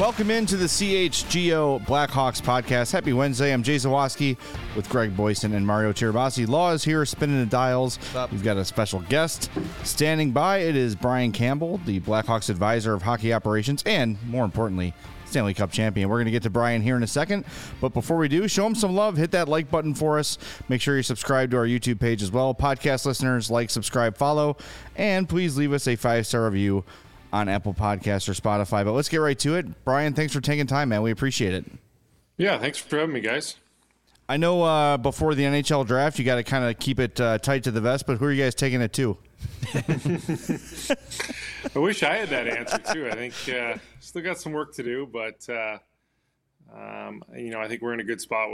Welcome into the CHGO Blackhawks podcast. Happy Wednesday. I'm Jay Zawaski with Greg Boyson and Mario Tirabassi. Law is here spinning the dials. We've got a special guest standing by. It is Brian Campbell, the Blackhawks advisor of hockey operations and, more importantly, Stanley Cup champion. We're going to get to Brian here in a second, but before we do, show him some love. Hit that like button for us. Make sure you subscribe to our YouTube page as well. Podcast listeners, like, subscribe, follow, and please leave us a 5-star review on Apple Podcasts or Spotify. But let's get right to it. Brian, thanks for taking time, man. We appreciate it. Yeah, thanks for having me, guys. I know before the NHL draft, you got to kind of keep it tight to the vest, but who are you guys taking it to? I wish I had that answer, too. I think still got some work to do, but, I think we're in a good spot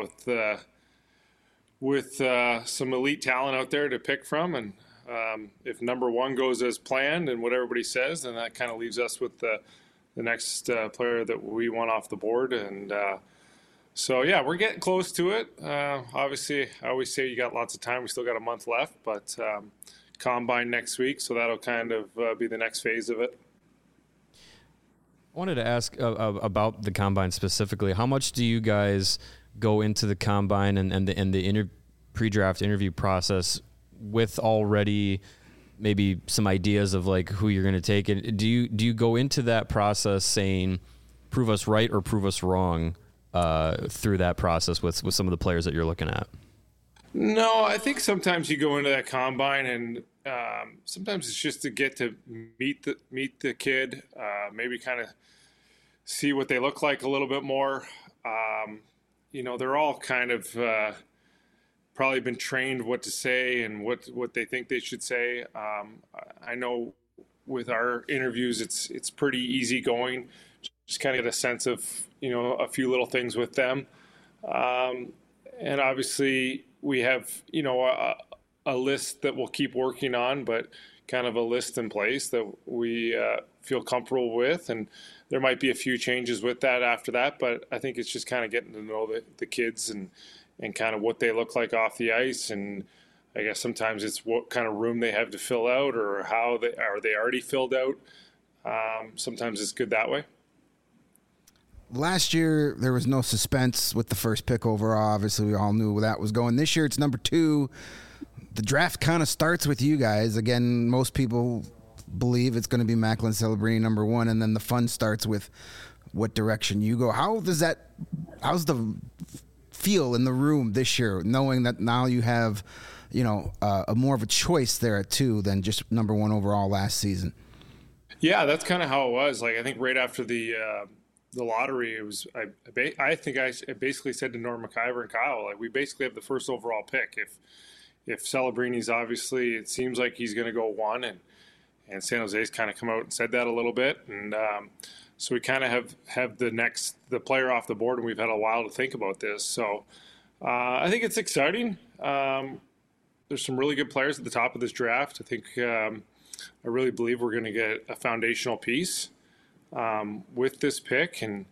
with some elite talent out there to pick from, and if number one goes as planned and what everybody says, then that kind of leaves us with the next player that we want off the board. And we're getting close to it. Obviously, I always say you got lots of time. We still got a month left, but combine next week, so that'll kind of be the next phase of it. I wanted to ask about the combine specifically. How much do you guys go into the combine and the pre-draft interview process with already maybe some ideas of like who you're going to take? And do you go into that process saying prove us right or prove us wrong through that process with some of the players that you're looking at? No, I think sometimes you go into that combine and sometimes it's just to get to meet the kid, maybe kind of see what they look like a little bit more. They're all kind of probably been trained what to say and what they think they should say. I know with our interviews, it's pretty easy going. Just kind of get a sense of, a few little things with them. And obviously we have, a list that we'll keep working on, but kind of a list in place that we feel comfortable with. And there might be a few changes with that after that, but I think it's just kind of getting to know the kids and kind of what they look like off the ice. And I guess sometimes it's what kind of room they have to fill out or how they already filled out. Sometimes it's good that way. Last year, there was no suspense with the first pick overall. Obviously, we all knew where that was going. This year, it's number 2. The draft kind of starts with you guys. Again, most people believe it's going to be Macklin Celebrini number 1, and then the fun starts with what direction you go. How's the feel in the room this year, knowing that now you have, a more of a choice there at 2 than just number 1 overall last season? Yeah, that's kind of how it was. Like, I think right after the lottery, it was. I think I basically said to Norm McIver and Kyle, like, we basically have the first overall pick. If Celebrini's obviously, it seems like he's going to go 1, and San Jose's kind of come out and said that a little bit, and so we kind of have the player off the board, and we've had a while to think about this. So I think it's exciting. There's some really good players at the top of this draft. I think I really believe we're going to get a foundational piece with this pick, and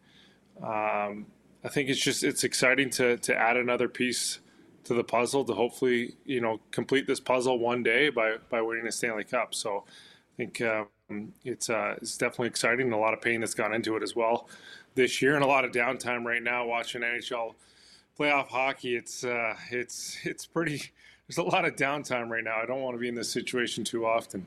I think it's exciting to add another piece to the puzzle to hopefully complete this puzzle one day by winning a Stanley Cup. So I think it's definitely exciting, and a lot of pain that's gone into it as well this year, and a lot of downtime right now watching NHL playoff hockey. It's pretty. There's a lot of downtime right now. I don't want to be in this situation too often.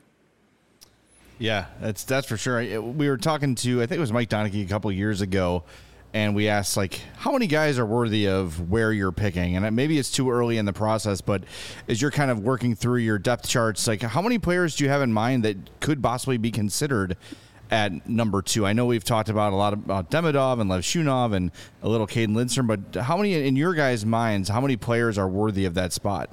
Yeah, that's for sure. We were talking to, I think it was Mike Donaghy a couple of years ago, and we asked, like, how many guys are worthy of where you're picking? And maybe it's too early in the process, but as you're kind of working through your depth charts, like, how many players do you have in mind that could possibly be considered at number 2? I know we've talked about a lot about Demidov and Lev Shunov and a little Caden Lindstrom, but how many, in your guys' minds, how many players are worthy of that spot?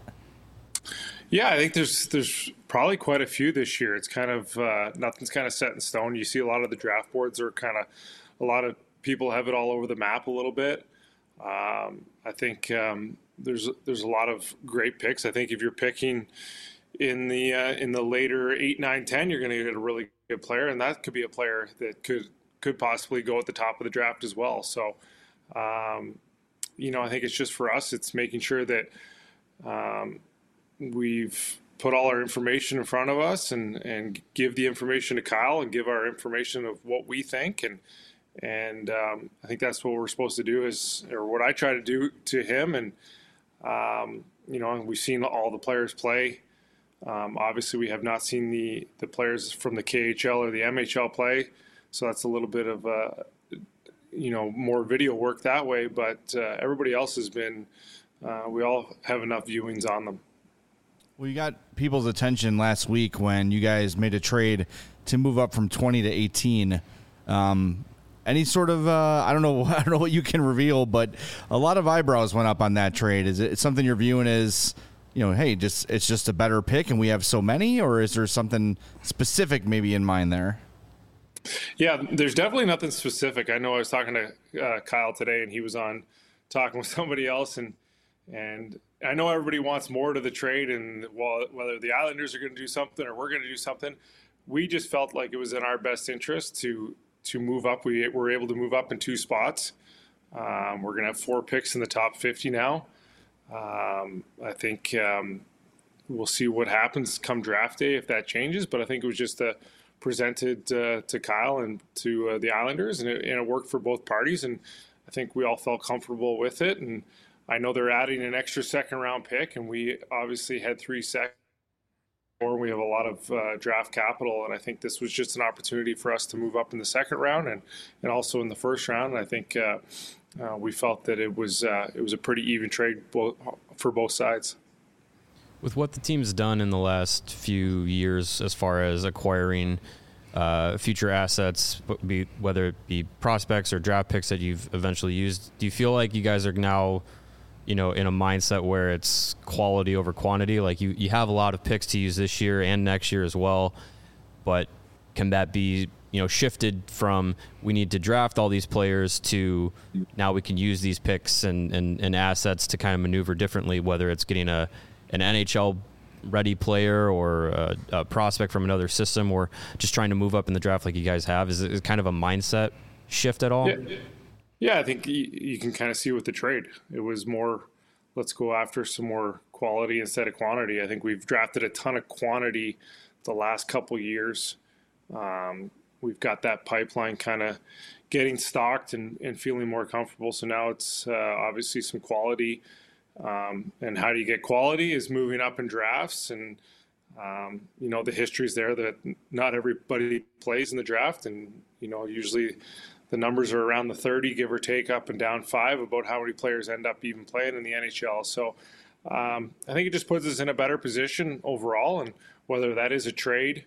Yeah, I think there's probably quite a few this year. It's kind of nothing's kind of set in stone. You see a lot of the draft boards are kind of, a lot of people have it all over the map a little bit. I think there's a lot of great picks. I think if you're picking in the later 8, 9, 10, you're going to get a really good player, and that could be a player that could possibly go at the top of the draft as well. So, I think it's just for us, it's making sure that we've put all our information in front of us and give the information to Kyle and give our information of what we think. And And I think that's what we're supposed to do or what I try to do to him. And, we've seen all the players play. Obviously, we have not seen the players from the KHL or the MHL play. So that's a little bit of, more video work that way. But everybody else has been, we all have enough viewings on them. Well, you got people's attention last week when you guys made a trade to move up from 20 to 18. Any sort of, I don't know what you can reveal, but a lot of eyebrows went up on that trade. Is it something you're viewing as, hey, it's just a better pick and we have so many, or is there something specific maybe in mind there? Yeah, there's definitely nothing specific. I know I was talking to Kyle today, and he was on talking with somebody else, and I know everybody wants more to the trade, and whether the Islanders are going to do something or we're going to do something, we just felt like it was in our best interest to move up. We were able to move up in 2 spots. We're going to have 4 picks in the top 50 now. I think we'll see what happens come draft day if that changes, but I think it was just presented to Kyle and to the Islanders, and it worked for both parties, and I think we all felt comfortable with it. And I know they're adding an extra second-round pick, and we obviously had 3 seconds. We have a lot of draft capital, and I think this was just an opportunity for us to move up in the second round and also in the first round. And I think we felt that it was a pretty even trade for both sides. With what the team's done in the last few years as far as acquiring future assets, whether it be prospects or draft picks that you've eventually used, do you feel like you guys are now in a mindset where it's quality over quantity? Like you have a lot of picks to use this year and next year as well, but can that be, shifted from we need to draft all these players to now we can use these picks and assets to kind of maneuver differently, whether it's getting an NHL ready player or a prospect from another system, or just trying to move up in the draft like you guys have? Is it kind of a mindset shift at all? Yeah, I think you can kind of see with the trade. It was more, let's go after some more quality instead of quantity. I think we've drafted a ton of quantity the last couple years. We've got that pipeline kind of getting stocked and feeling more comfortable. So now it's obviously some quality. And how do you get quality is moving up in drafts. And, the history's there that not everybody plays in the draft. And, usually the numbers are around the 30, give or take, up and down 5, about how many players end up even playing in the NHL. So I think it just puts us in a better position overall. And whether that is a trade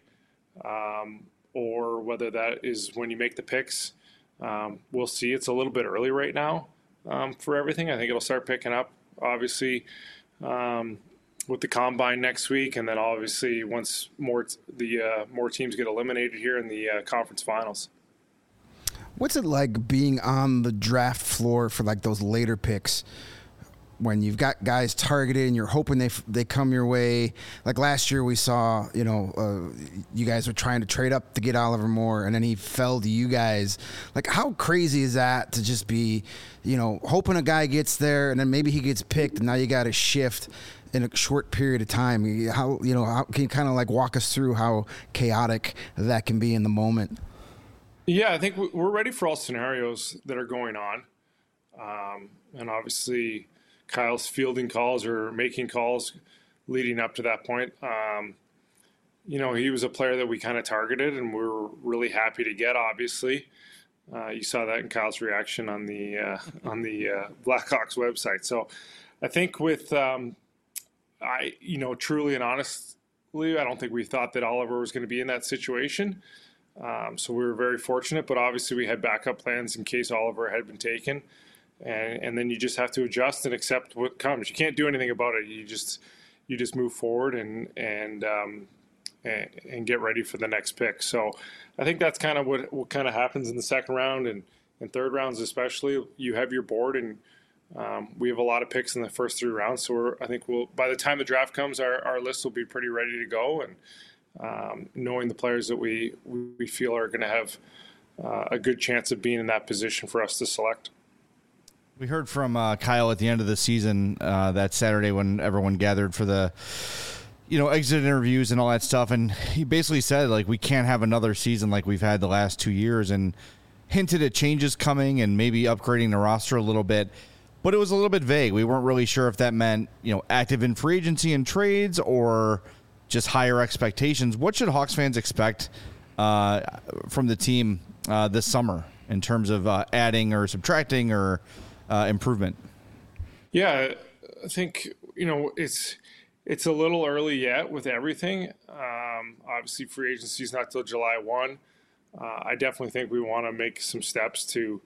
or whether that is when you make the picks, we'll see. It's a little bit early right now for everything. I think it'll start picking up, obviously, with the combine next week, and then obviously once more teams get eliminated here in the conference finals. What's it like being on the draft floor for like those later picks when you've got guys targeted and you're hoping they come your way? Like last year we saw, you guys were trying to trade up to get Oliver Moore, and then he fell to you guys. Like, how crazy is that to just be, hoping a guy gets there and then maybe he gets picked and now you got to shift in a short period of time? How can you kind of like walk us through how chaotic that can be in the moment? Yeah, I think we're ready for all scenarios that are going on. And obviously Kyle's fielding calls or making calls leading up to that point. He was a player that we kind of targeted and we were really happy to get, obviously. You saw that in Kyle's reaction on the Blackhawks website. So I think with, truly and honestly, I don't think we thought that Oliver was going to be in that situation. So we were very fortunate, but obviously we had backup plans in case Oliver had been taken. And then you just have to adjust and accept what comes. You can't do anything about it. You just move forward and get ready for the next pick. So I think that's kind of what kind of happens in the second round and third rounds especially. You have your board, and we have a lot of picks in the first 3 rounds. So I think by the time the draft comes, our list will be pretty ready to go. And knowing the players that we feel are going to have a good chance of being in that position for us to select. We heard from Kyle at the end of the season that Saturday when everyone gathered for the exit interviews and all that stuff, and he basically said, like, we can't have another season like we've had the last 2 years. And hinted at changes coming and maybe upgrading the roster a little bit, but it was a little bit vague. We weren't really sure if that meant, active in free agency and trades or just higher expectations. What should Hawks fans expect from the team this summer in terms of adding or subtracting or improvement? Yeah, I think, it's a little early yet with everything. Obviously, free agency is not till July 1. I definitely think we want to make some steps to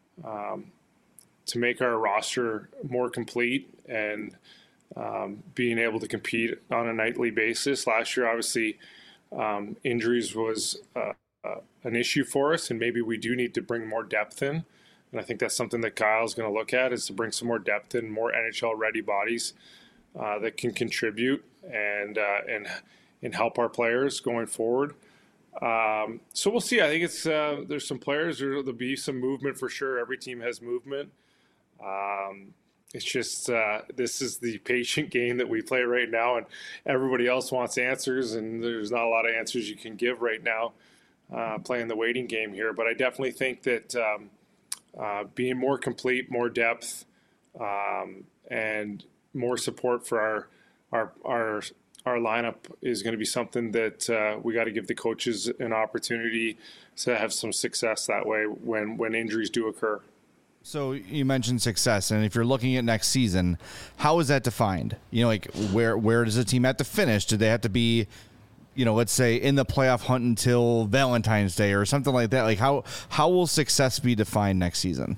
make our roster more complete and being able to compete on a nightly basis. Last year, obviously, injuries was an issue for us, and maybe we do need to bring more depth in. And I think that's something that Kyle's going to look at, is to bring some more depth in, more NHL-ready bodies that can contribute and help our players going forward. So we'll see. I think it's there's some players. There'll be some movement for sure. Every team has movement. It's just this is the patient game that we play right now, and everybody else wants answers, and there's not a lot of answers you can give right now playing the waiting game here. But I definitely think that being more complete, more depth, and more support for our lineup is going to be something that we got to give the coaches an opportunity to have some success that way when injuries do occur. So you mentioned success, and if you're looking at next season, how is that defined? Where does the team have to finish? Do they have to be, let's say in the playoff hunt until Valentine's Day or something like that? Like how will success be defined next season?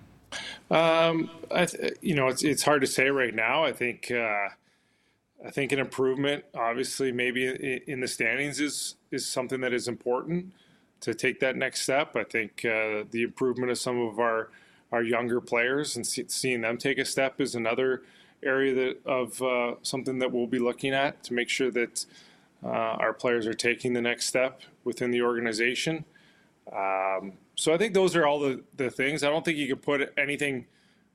It's hard to say right now. I think an improvement, obviously, maybe in the standings is something that is important to take that next step. I think the improvement of some of our younger players and seeing them take a step is another area of something that we'll be looking at to make sure that our players are taking the next step within the organization. So I think those are all the things. I don't think you could put anything,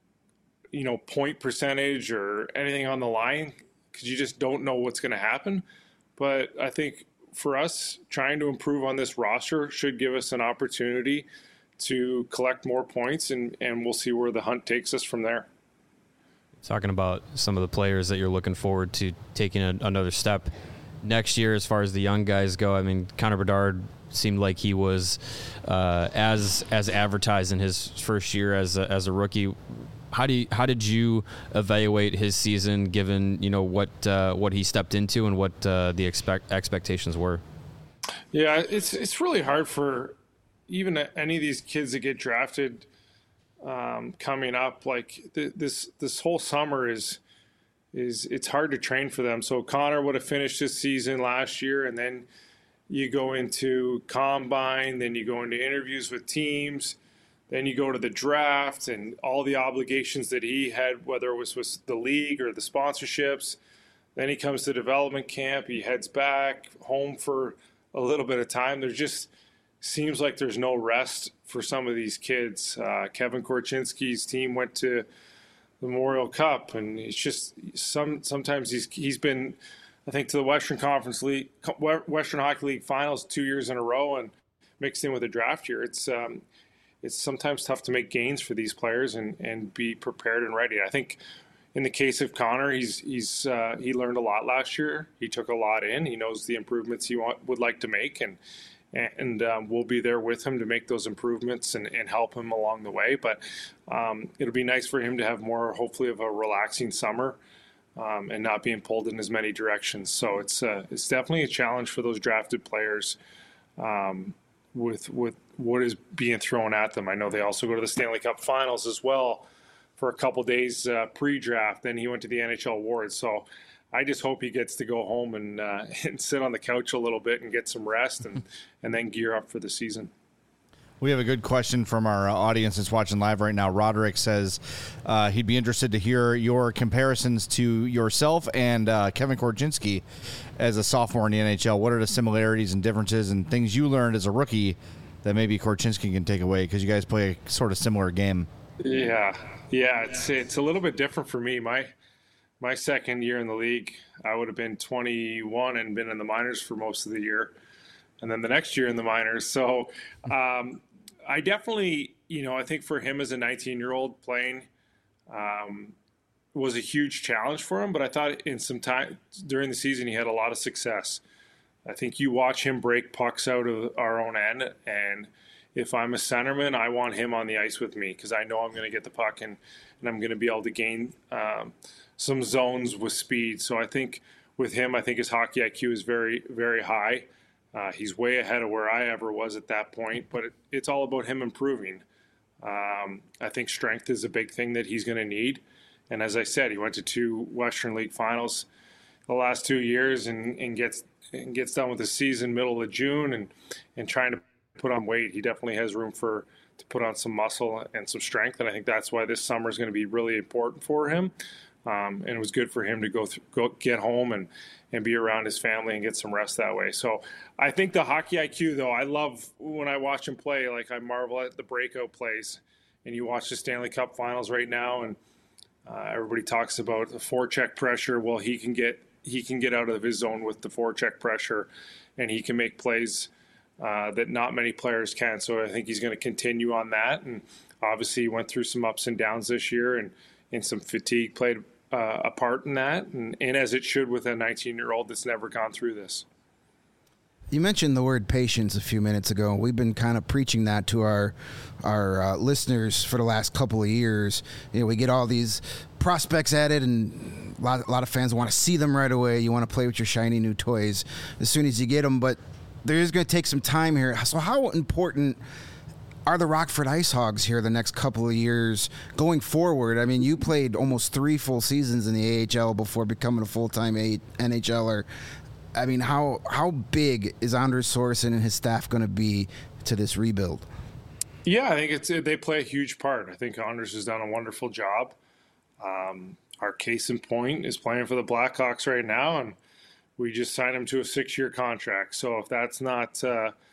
point percentage or anything on the line because you just don't know what's going to happen. But I think for us, trying to improve on this roster should give us an opportunity to collect more points, and we'll see where the hunt takes us from there. Talking about some of the players that you're looking forward to taking another step next year as far as the young guys go. I mean, Connor Bedard seemed like he was as advertised in his first year as a rookie. How did you evaluate his season, given what he stepped into and what the expectations were? Yeah, it's really hard for even any of these kids that get drafted coming up. Like this whole summer is it's hard to train for them. So Connor would have finished his season last year, and then you go into combine, then you go into interviews with teams, then you go to the draft and all the obligations that he had, whether it was with the league or the sponsorships. Then he comes to development camp. He heads back home for a little bit of time. There just seems like there's no rest for some of these kids. Kevin Korchinski's team went to the Memorial Cup, and it's just sometimes he's been, I think, to the Western Conference League, Western Hockey League Finals 2 years in a row, and mixed in with a draft year. It's sometimes tough to make gains for these players and be prepared and ready. I think in the case of Connor, he learned a lot last year. He took a lot in. He knows the improvements he would like to make, and we'll be there with him to make those improvements and help him along the way. But it'll be nice for him to have more, hopefully, of a relaxing summer and not being pulled in as many directions. So it's definitely a challenge for those drafted players with what is being thrown at them. I know they also go to the Stanley Cup Finals as well for a couple days pre-draft. Then he went to the NHL Awards. So I just hope he gets to go home and sit on the couch a little bit and get some rest and then gear up for the season. We have a good question from our audience that's watching live right now. Roderick says he'd be interested to hear your comparisons to yourself and Kevin Korchinski as a sophomore in the NHL. What are the similarities and differences and things you learned as a rookie that maybe Korchinski can take away, because you guys play a sort of similar game? Yeah, it's a little bit different for me. My second year in the league, I would have been 21 and been in the minors for most of the year, and then the next year in the minors. So I I definitely, I think for him as a 19-year-old playing was a huge challenge for him, but I thought in some time during the season he had a lot of success. I think you watch him break pucks out of our own end, and if I'm a centerman, I want him on the ice with me because I know I'm going to get the puck and I'm going to be able to gain some zones with speed. So I think with him, I think his hockey IQ is very, very high. He's way ahead of where I ever was at that point, but it's all about him improving. I think strength is a big thing that he's going to need. And as I said, he went to 2 Western League finals the last 2 years and gets done with the season middle of June and trying to put on weight. He definitely has room to put on some muscle and some strength, and I think that's why this summer is going to be really important for him. And it was good for him to go get home and be around his family and get some rest that way. So I think the hockey IQ, though, I love when I watch him play. Like I marvel at the breakout plays, and you watch the Stanley Cup Finals right now, and everybody talks about the forecheck pressure. Well, he can get out of his zone with the forecheck pressure, and he can make plays that not many players can. So I think he's going to continue on that. And obviously he went through some ups and downs this year, and some fatigue played a part in that. And as it should with a 19-year-old that's never gone through this. You mentioned the word patience a few minutes ago. We've been kind of preaching that to our listeners for the last couple of years. We get all these prospects at it, and a lot of fans want to see them right away. You want to play with your shiny new toys as soon as you get them, but there is going to take some time here. So how important are the Rockford Ice Hogs here the next couple of years going forward? I mean, you played almost 3 full seasons in the AHL before becoming a full-time NHLer. I mean, how big is Anders Sorensen and his staff going to be to this rebuild? Yeah, I think they play a huge part. I think Anders has done a wonderful job. Our case in point is playing for the Blackhawks right now, and we just signed him to a 6-year contract. So if that's not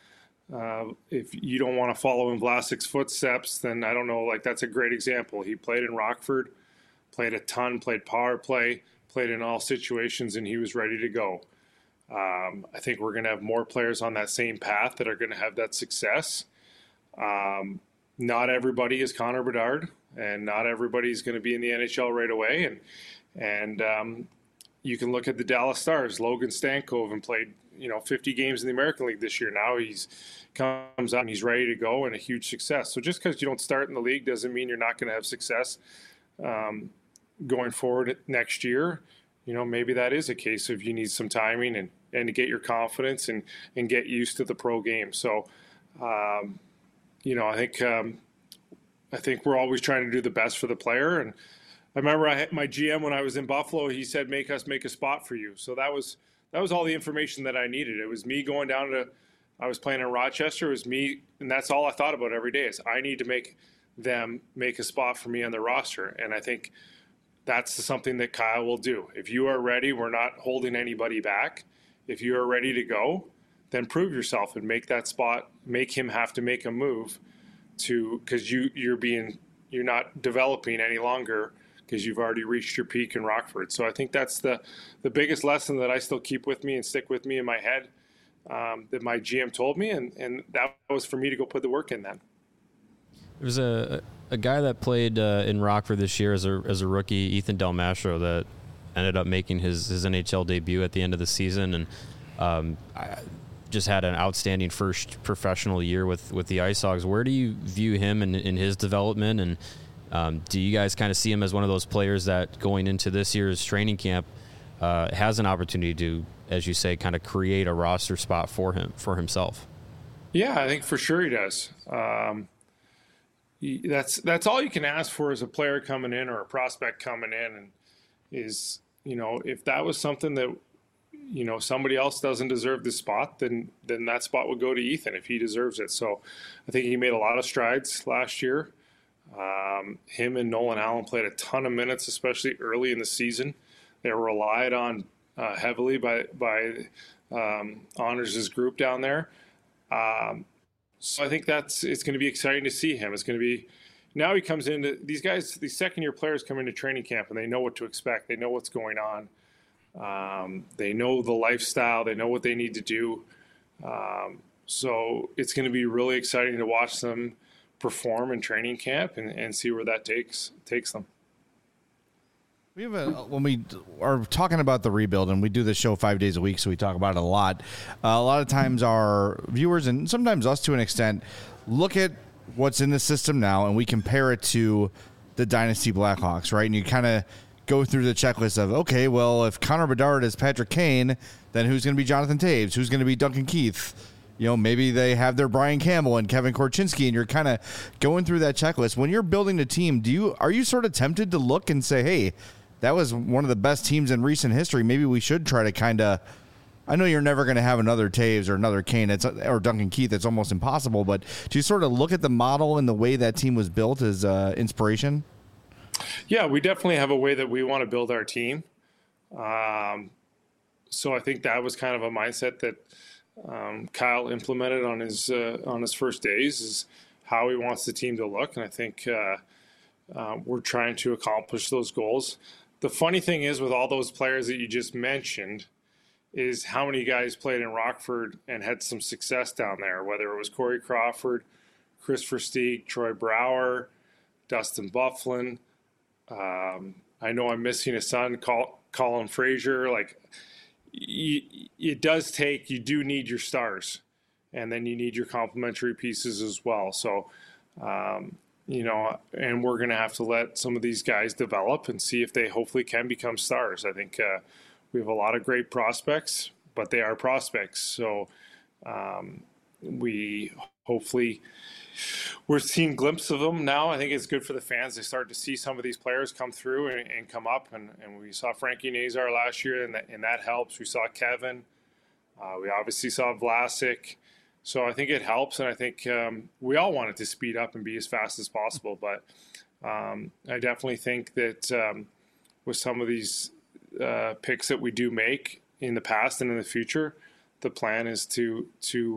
if you don't want to follow in Vlasic's footsteps, then I don't know. Like, that's a great example. He played in Rockford, played a ton, played power play, played in all situations, and he was ready to go. I think we're going to have more players on that same path that are going to have that success. Not everybody is Connor Bedard, and not everybody is going to be in the NHL right away. And you can look at the Dallas Stars. Logan Stankoven played 50 games in the American League this year. Now he's comes out and he's ready to go and a huge success. So just because you don't start in the league doesn't mean you're not going to have success going forward next year. Maybe that is a case of you need some timing and to get your confidence and get used to the pro game. So, I think we're always trying to do the best for the player. And I remember my GM when I was in Buffalo, he said, make us make a spot for you. So that was all the information that I needed. It was me going down I was playing in Rochester. It was me, and that's all I thought about every day is I need to make them make a spot for me on the roster. And I think that's something that Kyle will do. If you are ready, we're not holding anybody back. If you are ready to go, then prove yourself and make that spot, make him have to make a move because you're not developing any longer because you've already reached your peak in Rockford. So I think that's the biggest lesson that I still keep with me and stick with me in my head that my GM told me, and that was for me to go put the work in then. There was a guy that played in Rockford this year as a rookie, Ethan Del Mastro, that ended up making his NHL debut at the end of the season, and I just had an outstanding first professional year with the Ice Hogs. Where do you view him in his development, and do you guys kind of see him as one of those players that going into this year's training camp has an opportunity to, as you say, kind of create a roster spot for himself? Yeah, I think for sure he does. That's all you can ask for as a player coming in or a prospect coming in, and is if that was something that somebody else doesn't deserve the spot, then that spot would go to Ethan if he deserves it. So I think he made a lot of strides last year. Him and Nolan Allen played a ton of minutes, especially early in the season. They were relied on heavily by Anders' group down there. So I think it's going to be exciting to see him. It's going to be now he comes into these guys, these second-year players come into training camp and they know what to expect. They know what's going on. They know the lifestyle. They know what they need to do. So it's going to be really exciting to watch them perform in training camp and see where that takes them. We have when we are talking about the rebuild, and we do this show 5 days a week, so we talk about it a lot. A lot of times our viewers, and sometimes us to an extent, look at what's in the system now, and we compare it to the Dynasty Blackhawks, right? And you kind of go through the checklist of, okay, well, if Connor Bedard is Patrick Kane, then who's going to be Jonathan Toews? Who's going to be Duncan Keith? Maybe they have their Brian Campbell and Kevin Korchinski, and you're kind of going through that checklist. When you're building a team, are you sort of tempted to look and say, hey, that was one of the best teams in recent history. Maybe we should try to kind of, I know you're never going to have another Toews or another Kane or Duncan Keith. It's almost impossible. But do you sort of look at the model and the way that team was built as inspiration? Yeah, we definitely have a way that we want to build our team. So I think that was kind of a mindset that Kyle implemented on his first days, is how he wants the team to look. And I think we're trying to accomplish those goals. The funny thing is, with all those players that you just mentioned, is how many guys played in Rockford and had some success down there, whether it was Corey Crawford, Chris Versteeg, Troy Brouwer, Dustin Byfuglien. I know I'm missing a son, Colin Fraser. Like, it does take, you do need your stars, and then you need your complementary pieces as well. So, and we're going to have to let some of these guys develop and see if they hopefully can become stars. I think we have a lot of great prospects, but they are prospects. So we're seeing glimpses of them now. I think it's good for the fans. They start to see some of these players come through and come up. And we saw Frankie Nazar last year, and that helps. We saw Kevin. We obviously saw Vlasic. So I think it helps, and I think we all want it to speed up and be as fast as possible. But I definitely think that with some of these picks that we do make in the past and in the future, the plan is to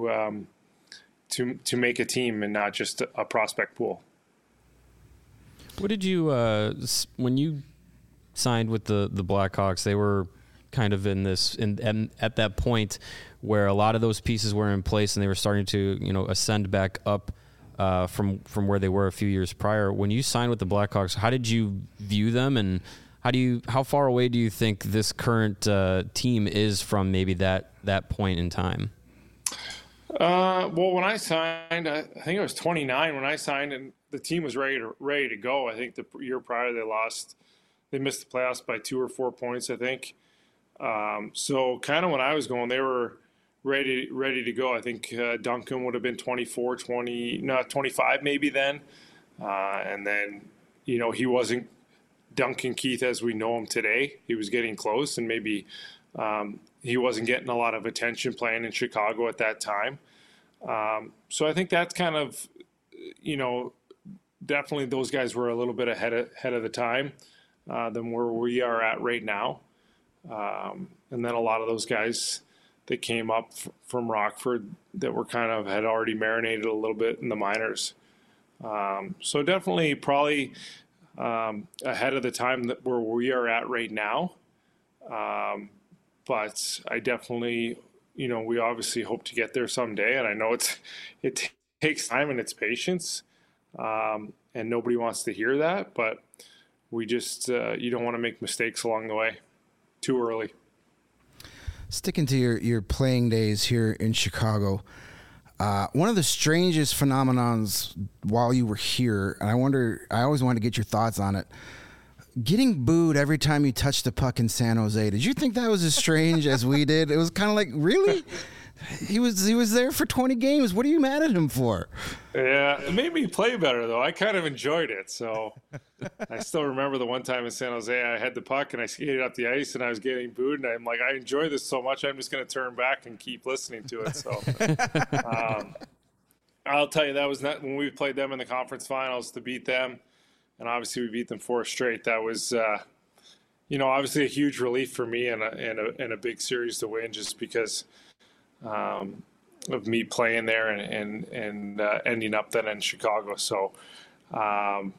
make a team and not just a prospect pool. What did you when you signed with the Blackhawks? They were kind of at that point where a lot of those pieces were in place and they were starting to ascend back up from where they were a few years prior. When you signed with the Blackhawks, how did you view them, and how far away do you think this current team is from maybe that point in time? Well, when I signed, I think I was 29 when I signed, and the team was ready to go. I think the year prior they missed the playoffs by 2 or 4 points, I think. So kind of when I was going, they were ready to go. I think Duncan would have been 25 maybe then. And then, he wasn't Duncan Keith as we know him today. He was getting close, and maybe he wasn't getting a lot of attention playing in Chicago at that time. So I think that's kind of, definitely those guys were a little bit ahead of the time than where we are at right now. And then a lot of those guys that came up from Rockford that were had already marinated a little bit in the minors. So definitely probably ahead of the time that where we are at right now. But I definitely, we obviously hope to get there someday. And I know it takes time and it's patience. And nobody wants to hear that, but we just, you don't want to make mistakes along the way too early. Sticking to your playing days here in Chicago, one of the strangest phenomenons while you were here, and I always wanted to get your thoughts on it, getting booed every time you touched the puck in San Jose. Did you think that was as strange as we did? It was kind of like, really? He was there for 20 games. What are you mad at him for? Yeah, it made me play better, though. I kind of enjoyed it. So I still remember the one time in San Jose, I had the puck and I skated up the ice and I was getting booed. And I'm like, I enjoy this so much, I'm just going to turn back and keep listening to it. So I'll tell you, that was not when we played them in the conference finals to beat them. And obviously we beat them 4 straight. That was, obviously a huge relief for me and a big series to win, just because of me playing there and ending up then in Chicago. So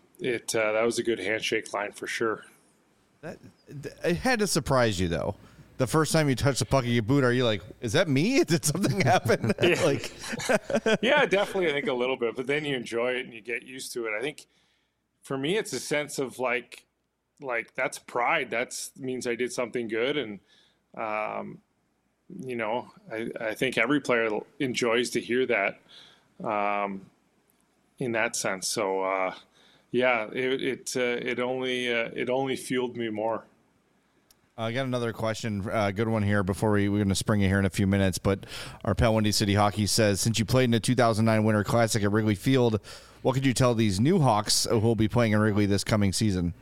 that was a good handshake line for sure. It had to surprise you, though. the first time you touch the puck of your boot, are you like, is that me? Did something happen? Like, yeah, definitely. I think a little bit, but then you enjoy it and you get used to it. I think for me, it's a sense of like that's pride. That's means I did something good. And, you know, I think every player enjoys to hear that, in that sense. So, yeah, it only fueled me more. I got another question, good one here before we're going to spring it here in a few minutes. But our pal Windy City Hockey says, since you played in the 2009 Winter Classic at Wrigley Field, what could you tell these new Hawks who will be playing in Wrigley this coming season?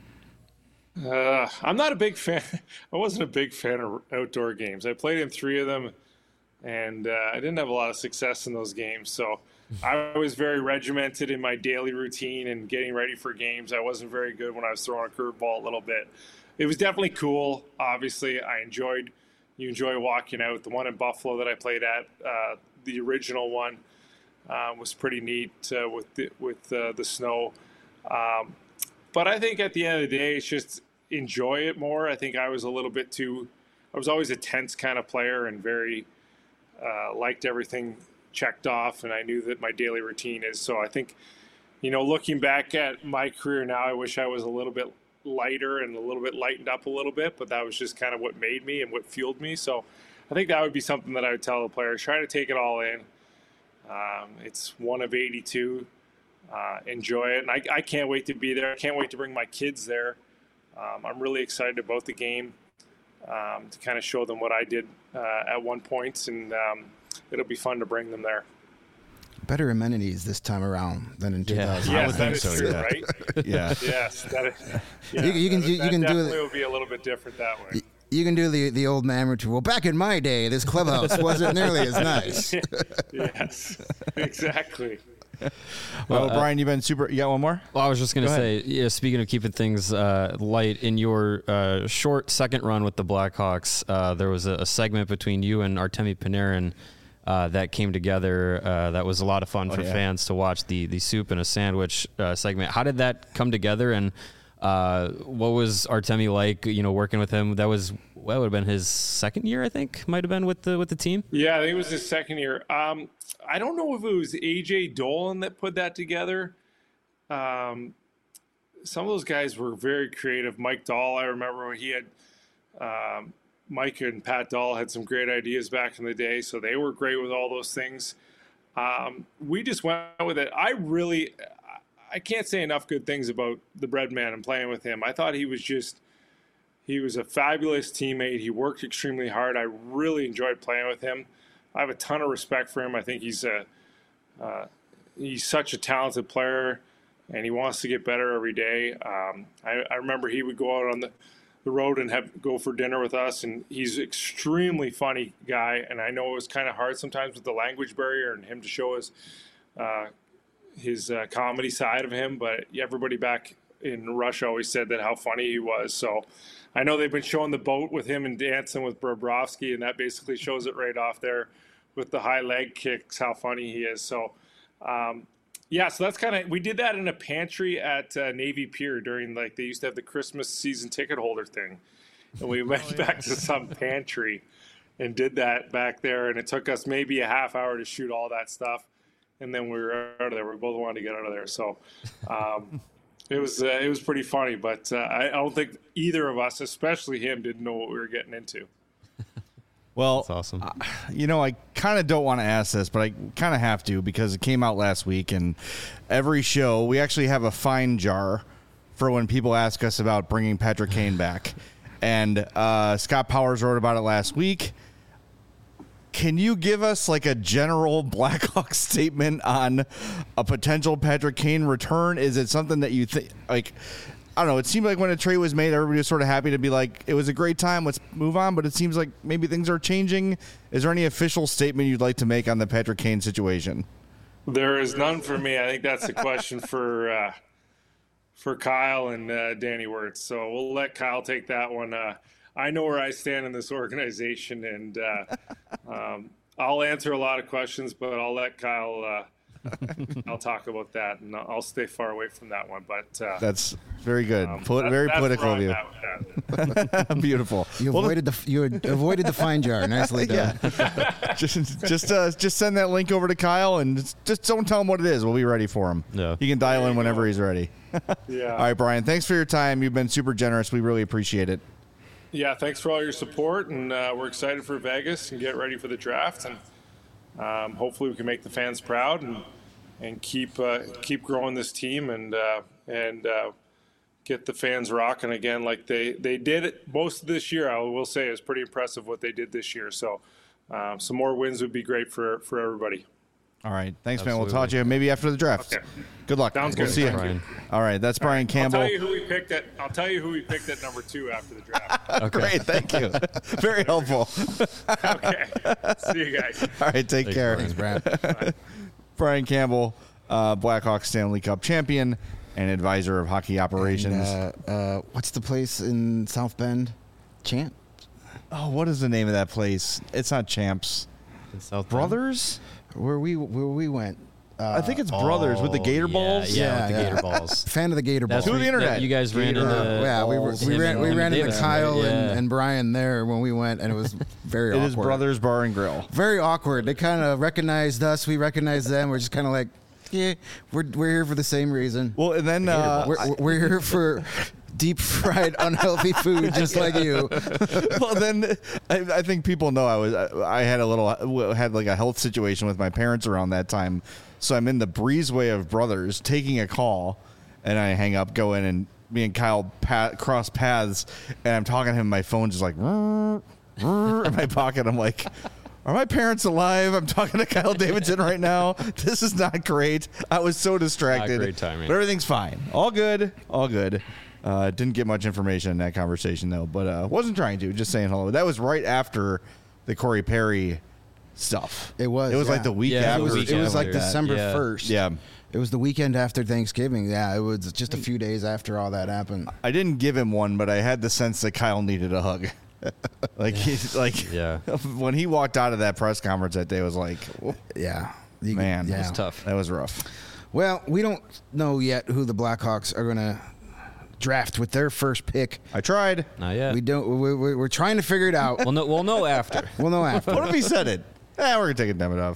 I'm not a big fan. I wasn't a big fan of outdoor games. I played in 3 of them, and I didn't have a lot of success in those games. So I was very regimented in my daily routine and getting ready for games. I wasn't very good when I was throwing a curveball a little bit. It was definitely cool. Obviously, you enjoy walking out. The one in Buffalo that I played at, the original one, was pretty neat with the snow. But I think at the end of the day, it's just enjoy it more. I think I was always a tense kind of player and very liked everything checked off, and I knew that my daily routine is. So I think, you know, looking back at my career now, I wish I was a little bit lighter and a little bit lightened up a little bit, but that was just kind of what made me and what fueled me. So I think that would be something that I would tell the players: try to take it all in. It's one of 82. Enjoy it, and I can't wait to be there. I can't wait to bring my kids there. I'm really excited about the game, to kind of show them what I did at one point, and it'll be fun to bring them there. Better amenities this time around than in 2000. Yes, that is true, yeah. right? Yeah. Yes, that is. Yeah, You can definitely do it. will be a little bit different that way. You can do the old amateur. Well, back in my day, this clubhouse wasn't nearly as nice. Yes, exactly. Well, Brian, you've been super. You got one more? Well, I was just going to say, yeah, speaking of keeping things light, in your short second run with the Blackhawks, there was a segment between you and Artemi Panarin that came together. That was a lot of fun for fans to watch, the soup and a sandwich segment. How did that come together, and what was Artemi like, you know, working with him? That would have been his second year, I think, might have been with the team. Yeah, I think it was his second year. I don't know if it was AJ Dolan that put that together. Some of those guys were very creative. Mike Dahl, I remember when he had Mike and Pat Dahl had some great ideas back in the day, so they were great with all those things. We just went with it. I can't say enough good things about the Bread Man and playing with him. I thought he was a fabulous teammate. He worked extremely hard. I really enjoyed playing with him. I have a ton of respect for him. I think he's such a talented player, and he wants to get better every day. I remember he would go out on the road and go for dinner with us, and he's an extremely funny guy. And I know it was kind of hard sometimes with the language barrier and him to show his comedy side of him, but everybody back in Russia always said that how funny he was. So I know they've been showing the boat with him and dancing with Bobrovsky, and that basically shows it right off there with the high leg kicks, how funny he is. So, so that's kind of, we did that in a pantry at Navy Pier during, like, they used to have the Christmas season ticket holder thing. And we went back to some pantry and did that back there. And it took us maybe a half hour to shoot all that stuff. And then we were out of there. We both wanted to get out of there. So, it was pretty funny, but I don't think either of us, especially him, didn't know what we were getting into. Well, That's awesome. You know, I kind of don't want to ask this, but I kind of have to because it came out last week, and every show we actually have a fine jar for when people ask us about bringing Patrick Kane back. And Scott Powers wrote about it last week. Can you give us like a general Blackhawks statement on a potential Patrick Kane return? Is it something that you think, like, I don't know, it seemed like when a trade was made, everybody was sort of happy to be like, it was a great time, let's move on, but it seems like maybe things are changing. Is there any official statement you'd like to make on the Patrick Kane situation? There is none for me. I think that's a question for Kyle and Danny Wirtz. So we'll let Kyle take that one. I know where I stand in this organization, and I'll answer a lot of questions, but I'll let Kyle I'll talk about that, and I'll stay far away from that one. But That's very good. Very that's political where of you. I'm at with that. Beautiful. You avoided the fine jar. Nicely done. Just send that link over to Kyle and just don't tell him what it is. We'll be ready for him. Yeah. He can dial in whenever he's ready. Yeah. All right, Brian. Thanks for your time. You've been super generous. We really appreciate it. Yeah, thanks for all your support, and we're excited for Vegas and get ready for the draft, and hopefully we can make the fans proud and keep growing this team and get the fans rocking again like they did it most of this year. I will say it's pretty impressive what they did this year. So some more wins would be great for everybody. All right. Thanks, man. Absolutely. We'll talk to you maybe after the draft. Okay. Good luck. Sounds We'll good. see you. Thank you. All right. That's Brian Campbell. I'll tell you who we picked at number 2 after the draft. Great. Thank you. Very helpful. Okay. See you guys. All right. Take care. Thanks, Brad. Brian Campbell, Blackhawks Stanley Cup champion and advisor of hockey operations. And, what's the place in South Bend? Champ? Oh, what is the name of that place? It's not Champs. In South Bend? Brothers? Where we went. I think it's Brothers with the Gator Balls. Yeah, with the Yeah, Gator yeah. Balls. Fan of the Gator Balls. To the internet. You guys ran into. yeah, we ran into Davidson, Kyle right? Yeah. and Brian there when we went, and it was very It awkward. is Brothers Bar and Grill. Very awkward. They kind of recognized us. We recognized them. We're just kind of like, yeah, we're here for the same reason. Well, and then We're here for deep fried, unhealthy food, just like you. well, then I think people know I had like a health situation with my parents around that time, so I'm in the breezeway of Brothers taking a call, and I hang up, go in, and me and Kyle cross paths, and I'm talking to him. My phone's just like in my pocket. I'm like, are my parents alive? I'm talking to Kyle Davidson right now. This is not great. I was so distracted. Not great timing. But everything's fine. All good. All good. Didn't get much information in that conversation, though, but wasn't trying to. Just saying hello. That was right after the Corey Perry stuff. It was. It was like the week Yeah, after. it was It was like after that. December Yeah. 1st. Yeah. It was the weekend after Thanksgiving. Yeah, it was just a few days after all that happened. I didn't give him one, but I had the sense that Kyle needed a hug. He's like, Yeah. when he walked out of that press conference that day, it was like, Yeah. man, yeah. it It's tough. That was rough. Well, we don't know yet who the Blackhawks are going to draft with their first pick. I tried. Not yet. We don't. We're trying to figure it out. We'll know after. We'll know after. What if he said it? We're going to take a Davidoff.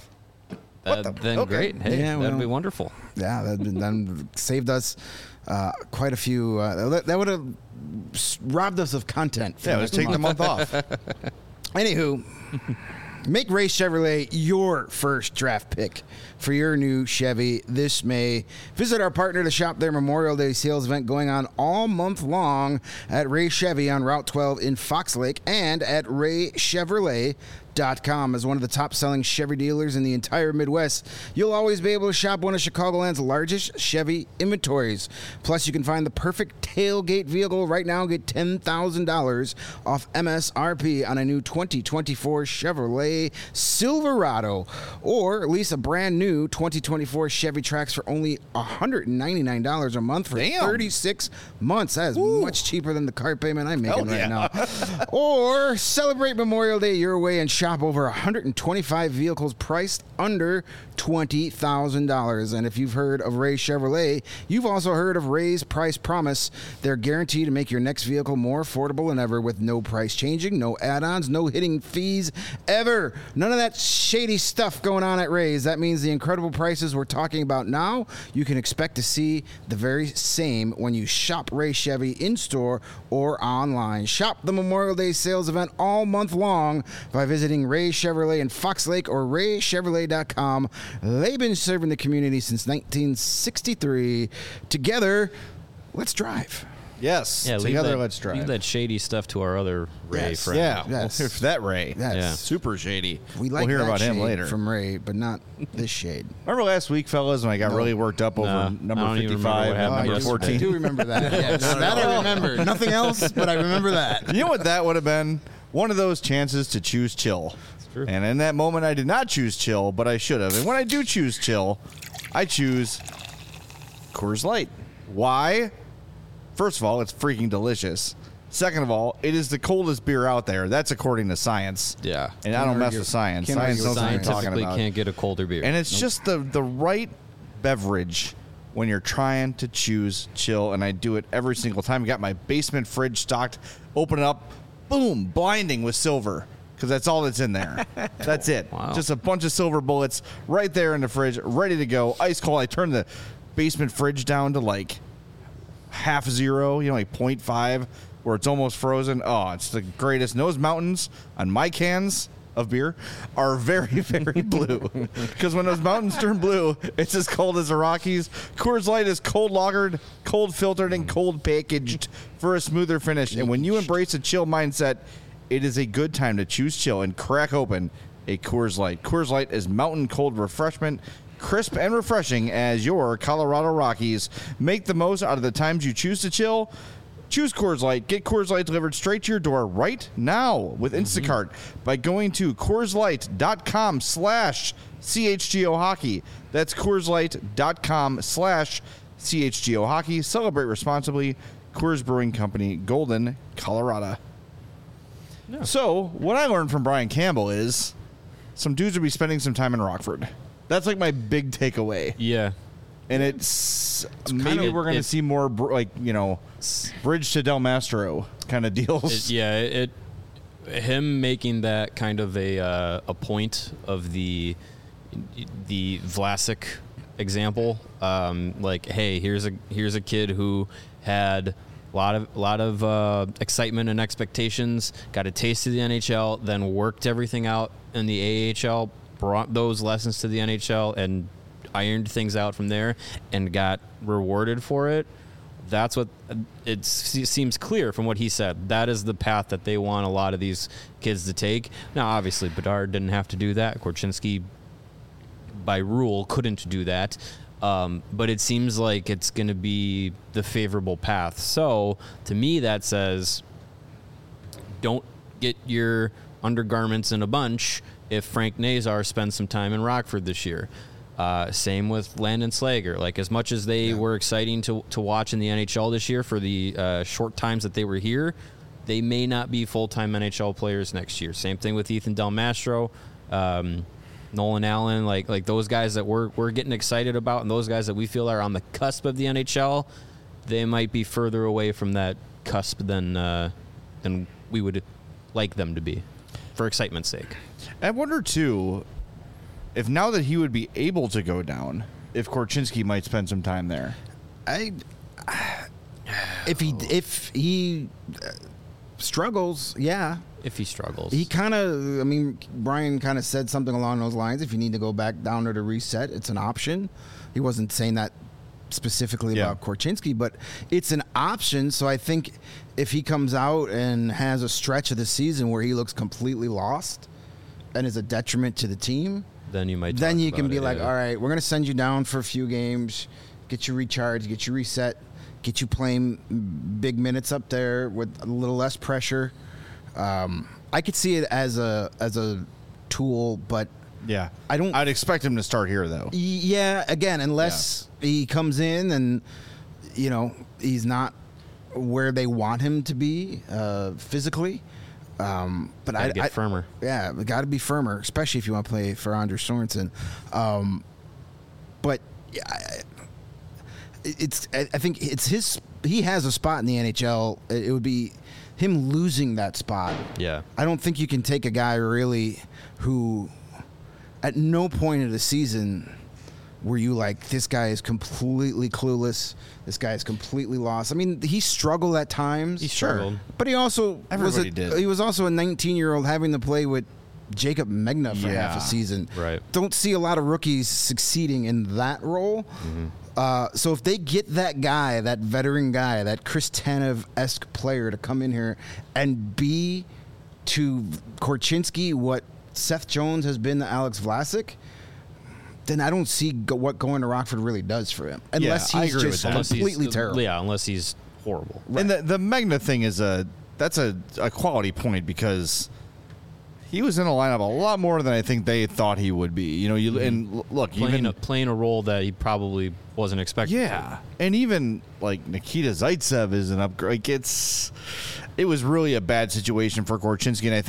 Then Okay. great. Hey, Yeah, that'd well. be wonderful. Yeah, that saved us quite a few. That would have robbed us of content. for Yeah, let's next take the month. month off. Anywho, make Ray Chevrolet your first draft pick for your new Chevy this May. Visit our partner to shop their Memorial Day sales event going on all month long at Ray Chevy on Route 12 in Fox Lake and at RayChevrolet.com. As one of the top-selling Chevy dealers in the entire Midwest, you'll always be able to shop one of Chicagoland's largest Chevy inventories. Plus, you can find the perfect tailgate vehicle right now. Get $10,000 off MSRP on a new 2024 Chevrolet Silverado, or lease a brand new 2024 Chevy Trax for only $199 a month for 36 months. That is much cheaper than the car payment I'm making right now. Or celebrate Memorial Day your way and shop over 125 vehicles priced under $20,000. And if you've heard of Ray Chevrolet, you've also heard of Ray's Price Promise. They're guaranteed to make your next vehicle more affordable than ever with no price changing, no add-ons, no hitting fees ever. None of that shady stuff going on at Ray's. That means the incredible prices we're talking about now, you can expect to see the very same when you shop Ray Chevy in-store or online. Shop the Memorial Day sales event all month long by visiting Ray Chevrolet in Fox Lake or RayChevrolet.com. They've been serving the community since 1963. Together, let's drive. Yes. Yeah, Together, let's drive. Leave that shady stuff to our other Ray Yes. friend. Yeah. Yes. Well, if that Ray. Yes. Yeah. Super shady. We like we'll hear that about him shade later. from Ray, but not this shade. Remember last week, fellas, when I got really worked up over I number don't even remember 55 what and happened number yesterday. 14? I do remember that. Yes. That I remember. Nothing else, but I remember that. You know what that would have been? One of those chances to choose chill. true. And in that moment, I did not choose chill, but I should have. And when I do choose chill, I choose Coors Light. Why? First of all, it's freaking delicious. Second of all, it is the coldest beer out there. That's according to science. Yeah. And I don't mess argue. with science. Can't Science argue with knows what I'm talking Scientifically about. can't get a colder beer. And it's just the right beverage when you're trying to choose chill, and I do it every single time. I got my basement fridge stocked, open it up, boom, blinding with silver, because that's all that's in there. That's it. Wow. Just a bunch of silver bullets right there in the fridge, ready to go, ice cold. I turn the basement fridge down to like half zero, like 0.5, where it's almost frozen. Oh, it's the greatest. And those mountains on my cans of beer are very, very blue. Because when those mountains turn blue, it's as cold as the Rockies. Coors Light is cold lagered, cold filtered, and cold packaged for a smoother finish. And when you embrace a chill mindset, it is a good time to choose chill and crack open a Coors Light. Coors Light is mountain cold refreshment, crisp and refreshing as your Colorado Rockies. Make the most out of the times you choose to chill. Choose Coors Light. Get Coors Light delivered straight to your door right now with Instacart by going to CoorsLight.com/CHGO Hockey. That's CoorsLight.com/CHGO Hockey. Celebrate responsibly. Coors Brewing Company, Golden, Colorado. Yeah. So, what I learned from Brian Campbell is some dudes will be spending some time in Rockford. That's like my big takeaway. yeah. And it's maybe we're going to see more Bridge to Del Mastro kind of deals. Him making that kind of a point of the Vlasic example, like, hey, here's a kid who had a lot of excitement and expectations, got a taste of the NHL, then worked everything out in the AHL, brought those lessons to the NHL, and ironed things out from there and got rewarded for it. That's what it seems clear from what he said. That is the path that they want a lot of these kids to take. Now, obviously, Bedard didn't have to do that. Korchinski, by rule, couldn't do that. But it seems like it's going to be the favorable path. So, to me, that says don't get your undergarments in a bunch if Frank Nazar spends some time in Rockford this year. Same with Landon Slager. Like, as much as they were exciting to watch in the NHL this year for the short times that they were here, they may not be full-time NHL players next year. Same thing with Ethan Del Mastro, Nolan Allen, like those guys that we're getting excited about, and those guys that we feel are on the cusp of the NHL. They might be further away from that cusp than we would like them to be, for excitement's sake. I wonder too, if now that he would be able to go down, if Korchinski might spend some time there. If he struggles, yeah. If he struggles. He Brian kind of said something along those lines. If you need to go back down there to reset, it's an option. He wasn't saying that specifically about Korchinski, but it's an option. So I think if he comes out and has a stretch of the season where he looks completely lost and is a detriment to the team, then you might. Then you can be like, all right, we're going to send you down for a few games, get you recharged, get you reset, get you playing big minutes up there with a little less pressure. I could see it as a tool, but yeah, I'd expect him to start here though. Yeah, again, unless he comes in and he's not where they want him to be physically. But I get firmer. Yeah, got to be firmer, especially if you want to play for Anders Sorensen. But I think it's his. He has a spot in the NHL. It would be him losing that spot. Yeah, I don't think you can take a guy really who, at no point of the season, were you like, this guy is completely clueless. This guy is completely lost. I mean, he struggled at times. He struggled. But he also did. He was also a 19-year-old having to play with Jacob Megna for half a season. Right. Don't see a lot of rookies succeeding in that role. Mm-hmm. So if they get that guy, that veteran guy, that Chris Tanev-esque player to come in here and be to Korchinski what Seth Jones has been to Alex Vlasic, then I don't see what going to Rockford really does for him. Unless he's just completely terrible. Yeah, unless he's horrible. Right. And the Megna thing is that's a quality point, because he was in a lineup a lot more than I think they thought he would be. You know, and look, playing a role that he probably wasn't expecting. Yeah, and even like Nikita Zaitsev is an upgrade. Like it was really a bad situation for Korchinski, and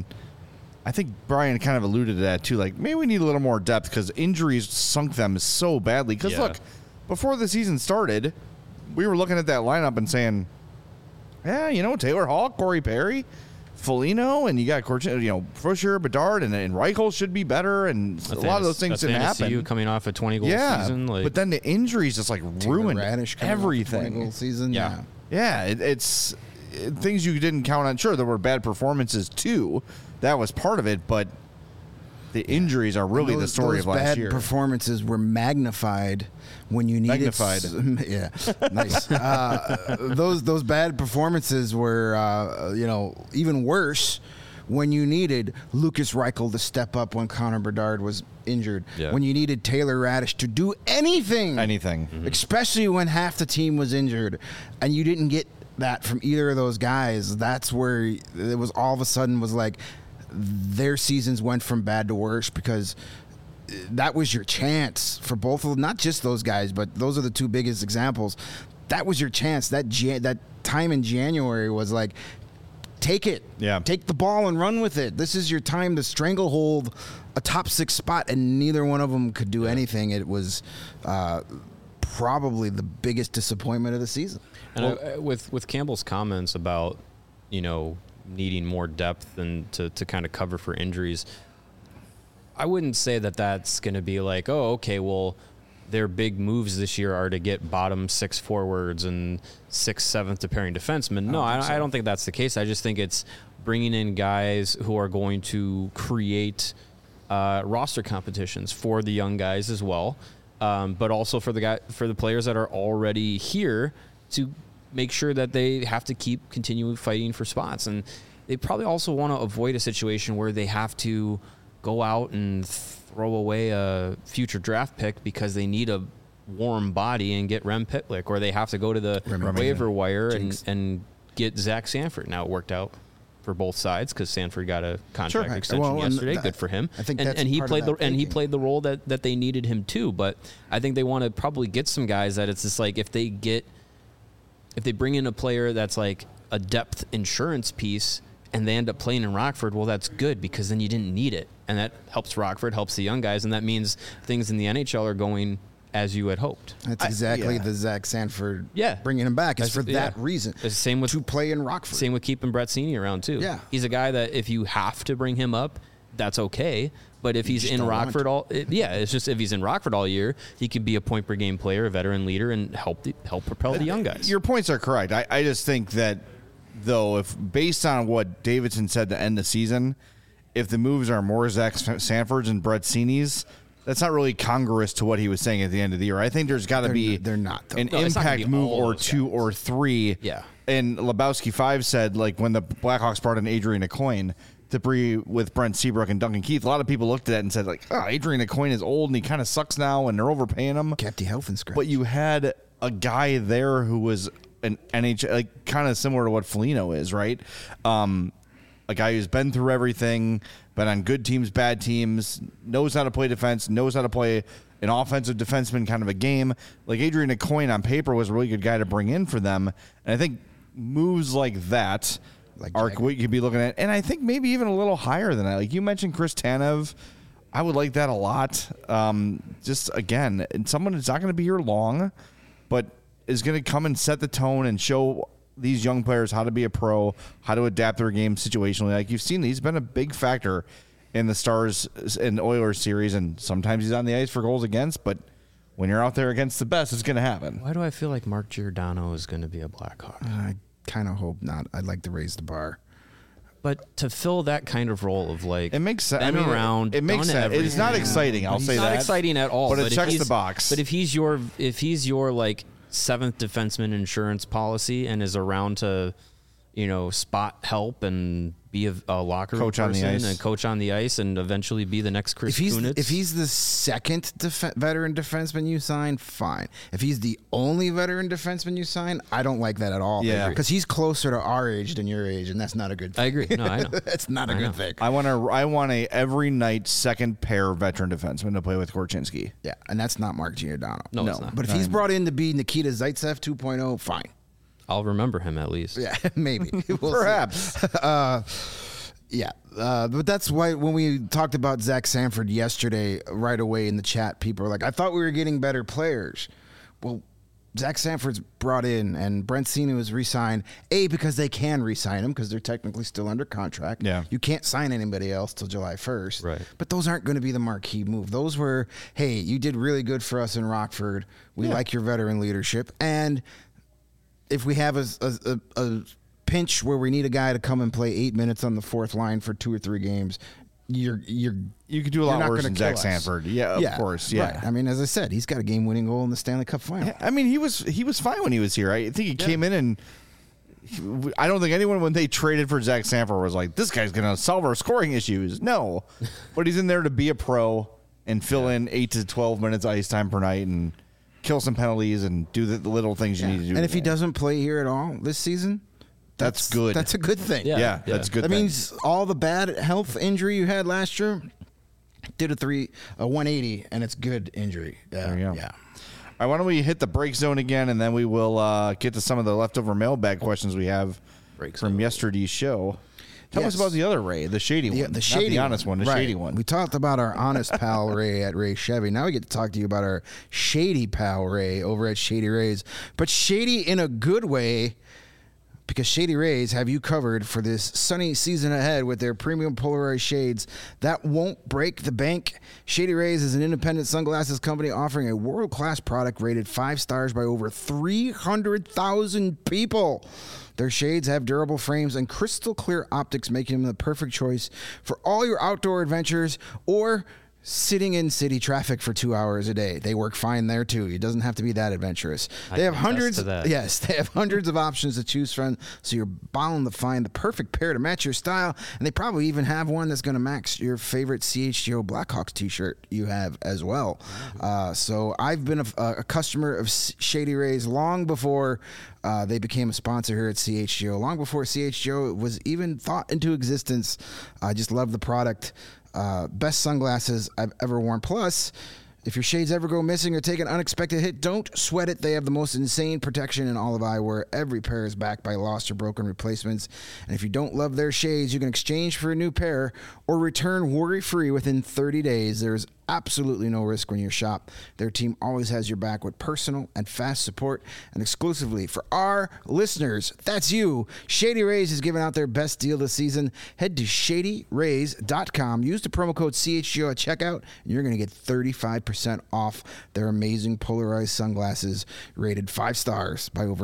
I think Brian kind of alluded to that too. Like maybe we need a little more depth because injuries sunk them so badly. Because look, before the season started, we were looking at that lineup and saying, yeah, you know, Taylor Hall, Corey Perry, Foligno, and you got Fischer, Bedard, and Reichel should be better, and a lot of those things didn't happen. Coming off a 20-goal season, but then the injuries just like ruined everything. 20-goal season, it's things you didn't count on. Sure, there were bad performances too. That was part of it, but the injuries are really the story of last year. Bad performances were magnified when you needed. Yeah, nice. Those bad performances were, even worse when you needed Lucas Reichel to step up when Connor Bedard was injured. Yeah. When you needed Taylor Radish to do anything, especially when half the team was injured, and you didn't get that from either of those guys. That's where it was all of a sudden was like their seasons went from bad to worse because that was your chance for both of them, not just those guys, but those are the two biggest examples. That was your chance. That time in January was like, take it. Yeah. Take the ball and run with it. This is your time to stranglehold a top 6 spot, and neither one of them could do anything. It was probably the biggest disappointment of the season. And with Campbell's comments about, needing more depth and to kind of cover for injuries, I wouldn't say that that's going to be like, oh, okay, well, their big moves this year are to get bottom 6 forwards and 6th, 7th pairing defensemen. No, I don't think that's the case. I just think it's bringing in guys who are going to create roster competitions for the young guys as well, but also for the players that are already here to make sure that they have to keep continuing fighting for spots. And they probably also want to avoid a situation where they have to go out and throw away a future draft pick because they need a warm body and get Rem Pitlick, or they have to go to the waiver wire and get Zach Sanford. Now, it worked out for both sides because Sanford got a contract extension yesterday. Good for him. I think and he played he played the role that they needed him to. But I think they want to probably get some guys that it's just like if they bring in a player that's like a depth insurance piece and they end up playing in Rockford, well, that's good because then you didn't need it. And that helps Rockford, helps the young guys, and that means things in the NHL are going as you had hoped. That's exactly the Zach Sanford bringing him back. It's for that reason. It's the same with to play in Rockford. Same with keeping Brett Seney around, too. Yeah. He's a guy that if you have to bring him up, that's okay. But if he's in Rockford it's just if he's in Rockford all year, he could be a point per game player, a veteran leader, and help propel the young guys. Your points are correct. I just think that, though, if based on what Davidson said to end the season, if the moves are more Zach Sanford's and Brett Seney's, that's not really congruous to what he was saying at the end of the year. I think there's got to be an impact move or 2 or 3. Yeah. And Lebowski 5 said, like, when the Blackhawks brought in Adrian Aucoin to be with Brent Seabrook and Duncan Keith, a lot of people looked at that and said, like, oh, Adrian Aucoin is old and he kind of sucks now and they're overpaying him. Kept you health and scratch. But you had a guy there who was an NHL, like, kind of similar to what Foligno is, right? A guy who's been through everything, been on good teams, bad teams, knows how to play defense, knows how to play an offensive defenseman kind of a game. Like, Adrian Aucoin on paper was a really good guy to bring in for them. And I think moves like that are what you could be looking at. And I think maybe even a little higher than that. Like you mentioned Chris Tanev. I would like that a lot. Just, again, someone that's not going to be here long, but is going to come and set the tone and show these young players how to be a pro, how to adapt their game situationally. Like you've seen, he's been a big factor in the Stars and Oilers series, and sometimes he's on the ice for goals against, but when you're out there against the best, it's going to happen. Why do I feel like Mark Giordano is going to be a Blackhawk? I kind of hope not. I'd like to raise the bar. But to fill that kind of role of like, it makes sense. Been around, it makes sense. It's not exciting. I'll say that. It's not exciting at all. But it checks the box. But if he's your like 7th defenseman insurance policy and is around to, spot help and be a locker room Coach on the ice. and coach on the ice and eventually be the next Chris Kunitz. If he's the second veteran defenseman you sign, fine. If he's the only veteran defenseman you sign, I don't like that at all. Yeah. Because he's closer to our age than your age, and that's not a good thing. I agree. No, I know. That's not a good thing. I want a every night second pair veteran defenseman to play with Korchinski. Yeah, and that's not Mark Giordano. No, it's not. But if he's brought in to be Nikita Zaitsev 2.0, fine. I'll remember him at least. Yeah, maybe. We'll Perhaps. Yeah, but that's why when we talked about Zach Sanford yesterday, right away in the chat, people were like, I thought we were getting better players. Well, Zach Sanford's brought in, and Brent Sinu is re-signed, because they can re-sign him because they're technically still under contract. Yeah. You can't sign anybody else till July 1st. Right. But those aren't going to be the marquee move. Those were, hey, you did really good for us in Rockford. We like your veteran leadership. And if we have a pinch where we need a guy to come and play 8 minutes on the fourth line for 2 or 3 games, you could do a lot worse than Zach Sanford. Yeah, of course. Yeah. Right. I mean, as I said, he's got a game-winning goal in the Stanley Cup final. I mean, he was fine when he was here. I think he came in and I don't think anyone when they traded for Zach Sanford was like, this guy's going to solve our scoring issues. No, but he's in there to be a pro and fill in 8 to 12 minutes ice time per night and kill some penalties and do the little things you need to do. And if he doesn't play here at all this season, that's good. That's a good thing. Yeah, that's good. That means all the bad health injury you had last year did a 180, and it's good injury. There you go. Yeah. All right, why don't we hit the break zone again, and then we will get to some of the leftover mailbag questions we have from yesterday's show. Tell us about the other Ray, the shady one. The shady, not the honest one, the shady one. We talked about our honest pal Ray at Ray Chevy. Now we get to talk to you about our shady pal Ray over at Shady Rays. But shady in a good way, because Shady Rays have you covered for this sunny season ahead with their premium polarized shades that won't break the bank. Shady Rays is an independent sunglasses company offering a world-class product rated 5 stars by over 300,000 people. Their shades have durable frames and crystal clear optics, making them the perfect choice for all your outdoor adventures or sitting in city traffic for 2 hours a day. They work fine there too. It doesn't have to be that adventurous. They have hundreds of options to choose from, so you're bound to find the perfect pair to match your style, and they probably even have one that's going to match your favorite CHGO Blackhawks t-shirt you have as well. So I've been a customer of Shady Rays long before they became a sponsor here at CHGO, long before CHGO was even thought into existence. I just love the product. Best sunglasses I've ever worn. Plus, if your shades ever go missing or take an unexpected hit, don't sweat it. They have the most insane protection in all of eyewear. Every pair is backed by lost or broken replacements. And if you don't love their shades, you can exchange for a new pair or return worry-free within 30 days. There's absolutely no risk when you shop. Their team always has your back with personal and fast support. And exclusively for our listeners, that's you, Shady Rays is giving out their best deal this season. Head to shadyrays.com. Use the promo code CHGO at checkout, and you're going to get 35% off their amazing polarized sunglasses rated 5 stars by over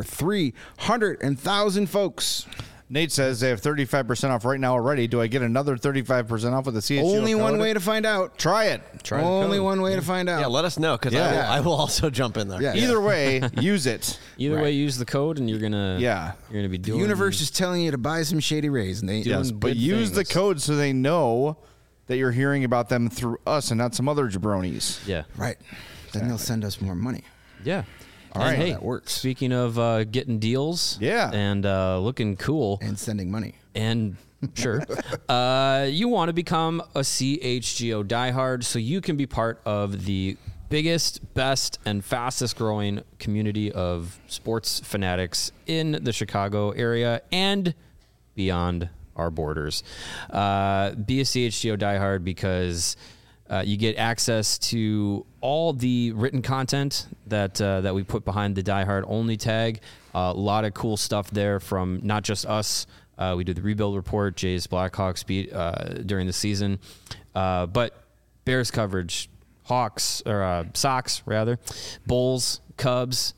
300,000 folks. Nate says they have 35% off right now already. Do I get another 35% off with the CHGO Only one way to find out. Try it. Only one way to find out. Yeah, let us know, because I will also jump in there. Yeah. Either way, use it. Either way, use the code, and you're gonna be doing. The universe is telling you to buy some Shady Rays, and they But use the code so they know that you're hearing about them through us and not some other jabronis. Yeah. Right. Then they'll send us more money. Yeah. All right, Hey, that works. Speaking of getting deals, and looking cool, And sending money. and sure, you want to become a CHGO diehard so you can be part of the biggest, best, and fastest growing community of sports fanatics in the Chicago area and beyond our borders. Be a CHGO diehard because you get access to all the written content that we put behind the Die Hard Only tag. A lot of cool stuff there from not just us. We do the Rebuild Report, Jay's Blackhawks beat during the season, but Bears coverage, Hawks or Sox rather, Bulls, Cubs,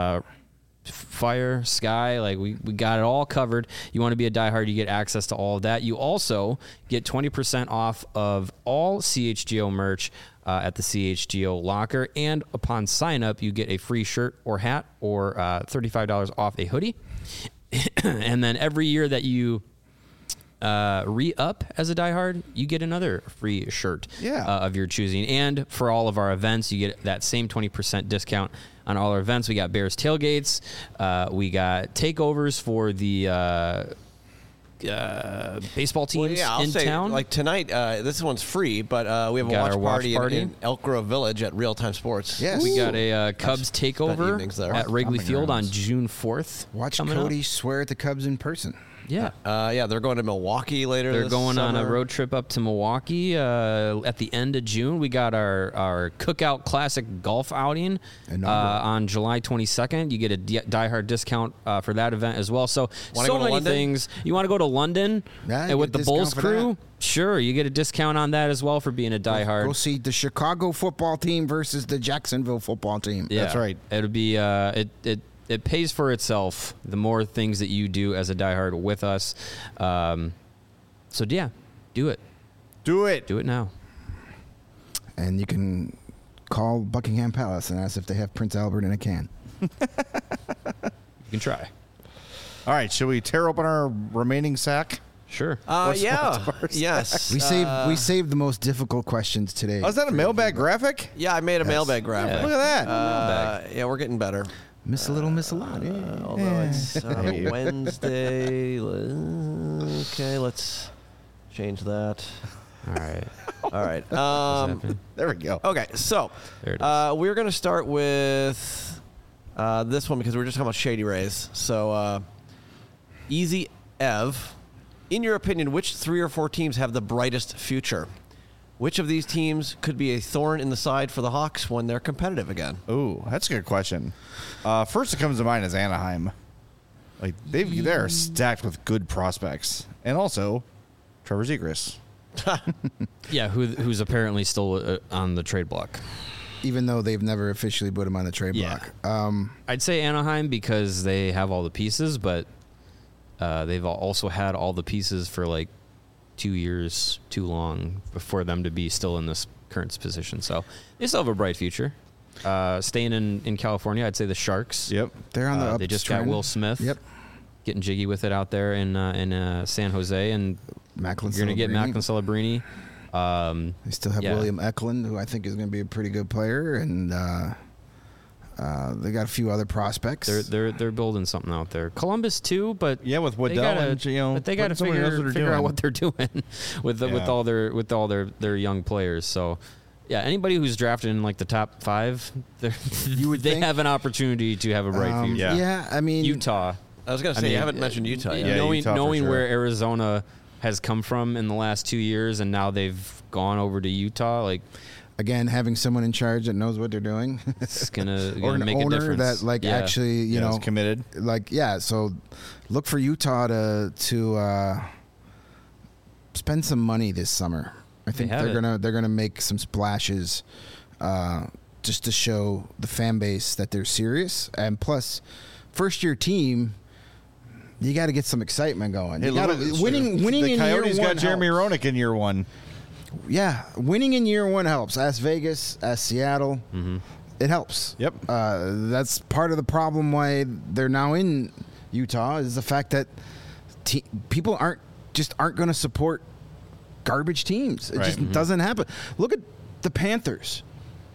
Fire, Sky, like we got it all covered. You want to be a diehard, you get access to all of that. You also get 20% off of all CHGO merch at the CHGO locker, and upon sign up, you get a free shirt or hat or $35 off a hoodie. And then every year that you re-up as a diehard, you get another free shirt of your choosing. And for all of our events, you get that same 20% discount on all our events. We got Bears tailgates. We got takeovers for the baseball teams I'll in say, town. Like tonight, this one's free, but we have a watch party in Elk Grove Village at Real Time Sports. Yes. We got a Cubs takeover at Wrigley Field on June 4th. Watch Cody swear at the Cubs in person. Yeah. They're going to Milwaukee later. They're this going summer. on a road trip up to Milwaukee at the end of June. We got our Cookout Classic golf outing on July 22nd. You get a diehard discount for that event as well. So many things. You want to go to London and with the Bulls crew? Sure, you get a discount on that as well for being a diehard. Go see the Chicago football team versus the Jacksonville football team. Yeah, that's right. It'll be it pays for itself the more things that you do as a diehard with us. So yeah, do it. Do it. Do it now. And you can call Buckingham Palace and ask if they have Prince Albert in a can. You can try. All right, shall we tear open our remaining sack? Sure. Yes. We saved the most difficult questions today. Oh, is that a mailbag graphic? Yeah, I made a mailbag graphic. Look at that. Yeah, we're getting better. Miss a lot. Although it's Wednesday. Okay, let's change that. All right. There we go. Okay, so There it is. we're going to start with this one because we're just talking about Shady Rays. So, Easy Ev, in your opinion, which 3 or 4 teams have the brightest future? Which of these teams could be a thorn in the side for the Hawks when they're competitive again? Ooh, that's a good question. First that comes to mind is Anaheim. Like they're stacked with good prospects, and also Trevor Zegras. Yeah, who's apparently still on the trade block. Even though they've never officially put him on the trade block. I'd say Anaheim because they have all the pieces, but they've also had all the pieces for like 2 years too long for them to be still in this current position. So they still have a bright future. Staying in California, I'd say the Sharks. Yep. They're on the They just got uptrend. Will Smith. Yep. Getting jiggy with it out there in San Jose, and Macklin you're going to get Macklin Celebrini. They still have William Eklund, who I think is going to be a pretty good player, and they got a few other prospects. They're building something out there. Columbus too, but Yeah, with Waddell but they got to figure out what they're doing with all their young players. So. Yeah, anybody who's drafted in like the top 5, they have an opportunity to have a bright future. Yeah, I mean Utah. I was going to say, you haven't mentioned Utah yet. Yeah, Utah for knowing sure. where Arizona has come from in the last 2 years, and now they've gone over to Utah, like again, having someone in charge that knows what they're doing, it's gonna or an make a owner difference. that actually is committed. So look for Utah to spend some money this summer. I think they're gonna make some splashes, just to show the fan base that they're serious. And plus, first year team, you got to get some excitement going. Hey, You gotta, winning the in Coyotes year one got Jeremy helps. Roenick in year 1. Yeah, winning in year 1 helps. Ask Vegas, ask Seattle. It helps. Yep. That's part of the problem why they're now in Utah is the fact that people aren't going to support garbage teams. It just doesn't happen. Look at the Panthers.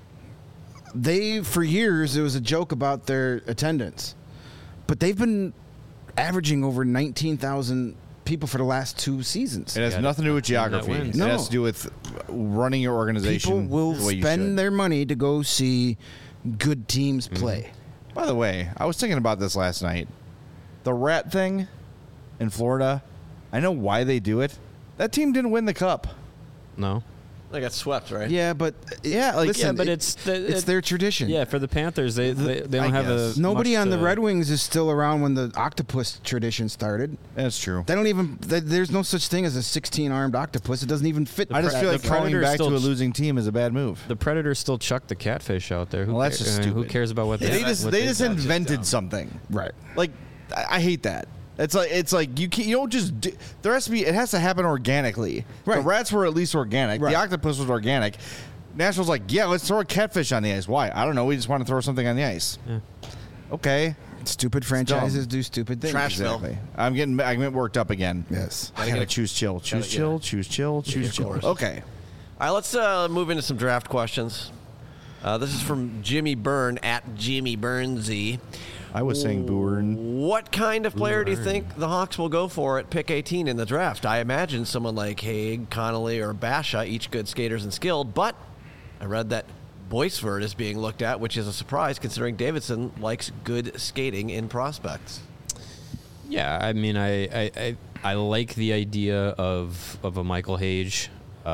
For years, it was a joke about their attendance, but they've been averaging over 19,000 people for the last 2 seasons. It has nothing to do with geography. It No. has to do with running your organization. People will the way you spend should. their money to go see good teams play. By the way, I was thinking about this last night. The rat thing in Florida, I know why they do it. That team didn't win the cup. No. They got swept, right? Yeah, but it's their tradition. Yeah, for the Panthers, they don't have guess. Nobody much on the to- Red Wings is still around when the octopus tradition started. That's true. They don't even. There's no such thing as a 16-armed octopus. It doesn't even fit. I just feel like the calling Predators back to still a losing team is a bad move. The Predators still chuck the catfish out there. Well, that's just Who stupid. cares about what They just invented dumb. something. Right. Like I hate that. It's like you don't just there has to be. It has to happen organically. Right. The rats were at least organic. Right. The octopus was organic. Nashville's like, yeah, let's throw a catfish on the ice. Why? I don't know. We just want to throw something on the ice. Yeah. Okay. Stupid franchises do stupid things. Trashville. Exactly. I'm getting worked up again. Yes. I gotta choose chill. Choose chill. Choose chill. Choose chill. course. Okay. All right, let's move into some draft questions. This is from Jimmy Byrne at Jimmy Burnsy. I was saying Bourne. What kind of player do you think the Hawks will go for at pick 18 in the draft? I imagine someone like Haig, Connolly, or Basha, each good skaters and skilled, but I read that Boisvert is being looked at, which is a surprise considering Davidson likes good skating in prospects. Yeah, I mean, I like the idea of a Michael Hage.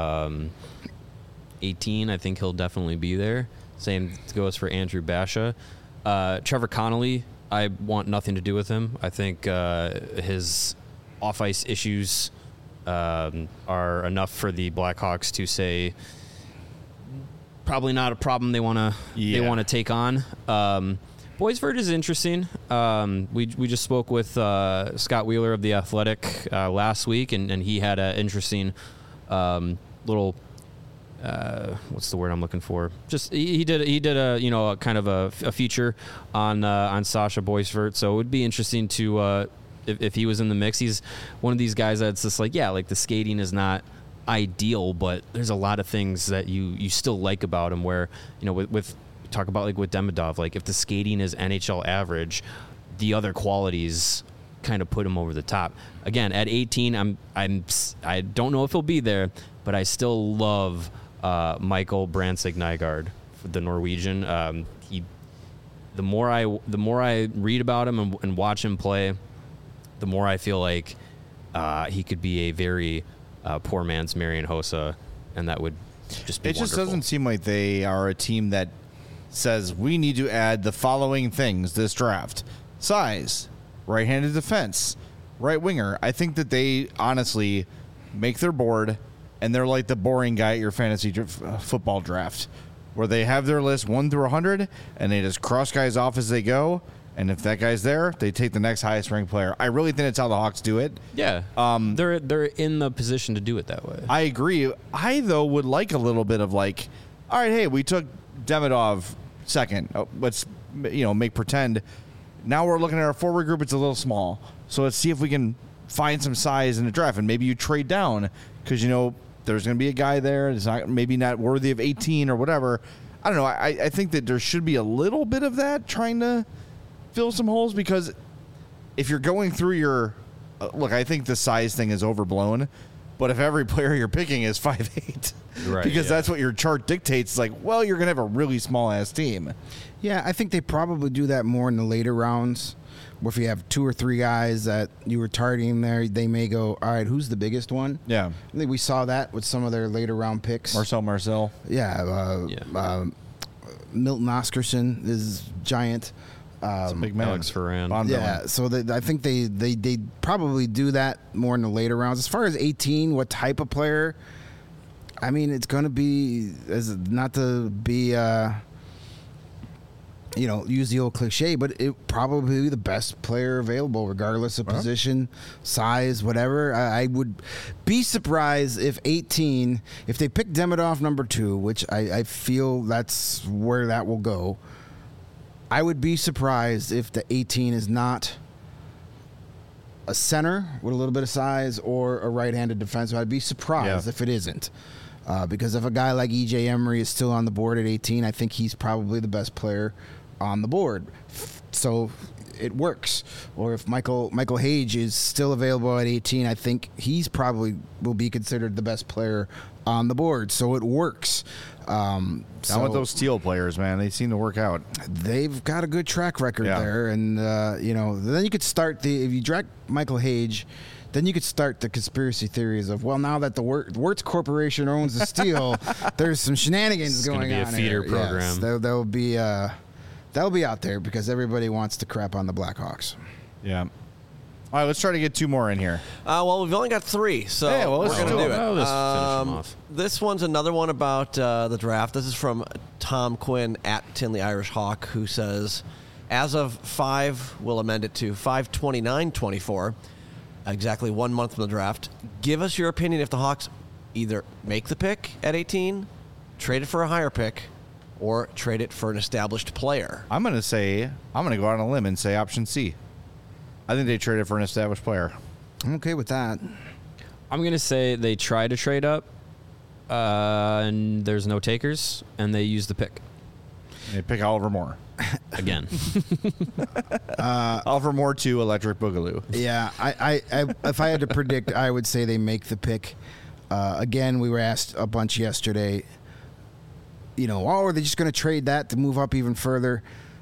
18, I think he'll definitely be there. Same goes for Andrew Basha. Trevor Connolly, I want nothing to do with him. I think his off-ice issues are enough for the Blackhawks to say probably not a problem they want to take on. Boisvert is interesting. We just spoke with Scott Wheeler of The Athletic last week, and he had an interesting little what's the word I'm looking for? Just he did a kind of a feature on Sasha Boisvert. So it would be interesting to if he was in the mix. He's one of these guys that's just like the skating is not ideal, but there's a lot of things that you still like about him. Where with talk about like with Demidov, like if the skating is NHL average, the other qualities kind of put him over the top. Again, at 18, I don't know if he'll be there, but I still love Michael Brandtzæg-Nygaard, the Norwegian. The more I read about him and watch him play, the more I feel like he could be a very poor man's Marian Hossa, and that would just be wonderful. Just doesn't seem like they are a team that says we need to add the following things this draft: size, right-handed defense, right winger. I think that they honestly make their board, and they're like the boring guy at your fantasy football draft, where they have their list 1 through 100, and they just cross guys off as they go. And if that guy's there, they take the next highest ranked player. I really think that's how the Hawks do it. Yeah, they're in the position to do it that way. I agree. I though would like a little bit of like, all right, hey, we took Demidov second. Let's make pretend. Now we're looking at our forward group. It's a little small, so let's see if we can find some size in the draft, and maybe you trade down because there's going to be a guy there that's maybe not worthy of 18 or whatever. I don't know. I think that there should be a little bit of that, trying to fill some holes, because if you're going through your look, I think the size thing is overblown, but if every player you're picking is 5'8", right, because that's what your chart dictates, it's like, well, you're going to have a really small ass team. Yeah, I think they probably do that more in the later rounds. Where if you have 2 or 3 guys that you were targeting there, they may go, all right, who's the biggest one? Yeah. I think we saw that with some of their later round picks. Marcel. Yeah. Milton Oscarsson is giant. It's a big man. Alex Ferran. Yeah, so I think they probably do that more in the later rounds. As far as 18, what type of player? I mean, it's going to be, not to be, use the old cliche, but it probably be the best player available, regardless of position, size, whatever. I would be surprised if 18, if they pick Demidov number 2, which I feel that's where that will go. I would be surprised if the 18 is not a center with a little bit of size or a right-handed defenseman. I'd be surprised if it isn't. Because if a guy like E.J. Emery is still on the board at 18, I think he's probably the best player on the board. So it works. Or if Michael Hage is still available at 18, I think he's probably will be considered the best player on the board. So it works. I want those Steel players, man. They seem to work out. They've got a good track record there. And, then you could start if you draft Michael Hage, then you could start the conspiracy theories of, well, now that the Wirtz Corporation owns the Steel, there's some shenanigans going on. It's going to be a feeder program. Yes, that'll be out there because everybody wants to crap on the Blackhawks. Yeah. All right, let's try to get 2 more in here. Well, we've only got 3, so let's we're going to do it. Let's finish them off. This one's another one about the draft. This is from Tom Quinn at Tinley Irish Hawk, who says, as of 5, we'll amend it to 5/29/24, exactly 1 month from the draft. Give us your opinion if the Hawks either make the pick at 18, trade it for a higher pick, or trade it for an established player? I'm going to go out on a limb and say option C. I think they traded for an established player. I'm okay with that. I'm going to say they try to trade up, and there's no takers, and they use the pick. They pick Oliver Moore. Again. Oliver Moore to Electric Boogaloo. Yeah, I if I had to predict, I would say they make the pick. Again, we were asked a bunch yesterday, are they just going to trade that to move up even further?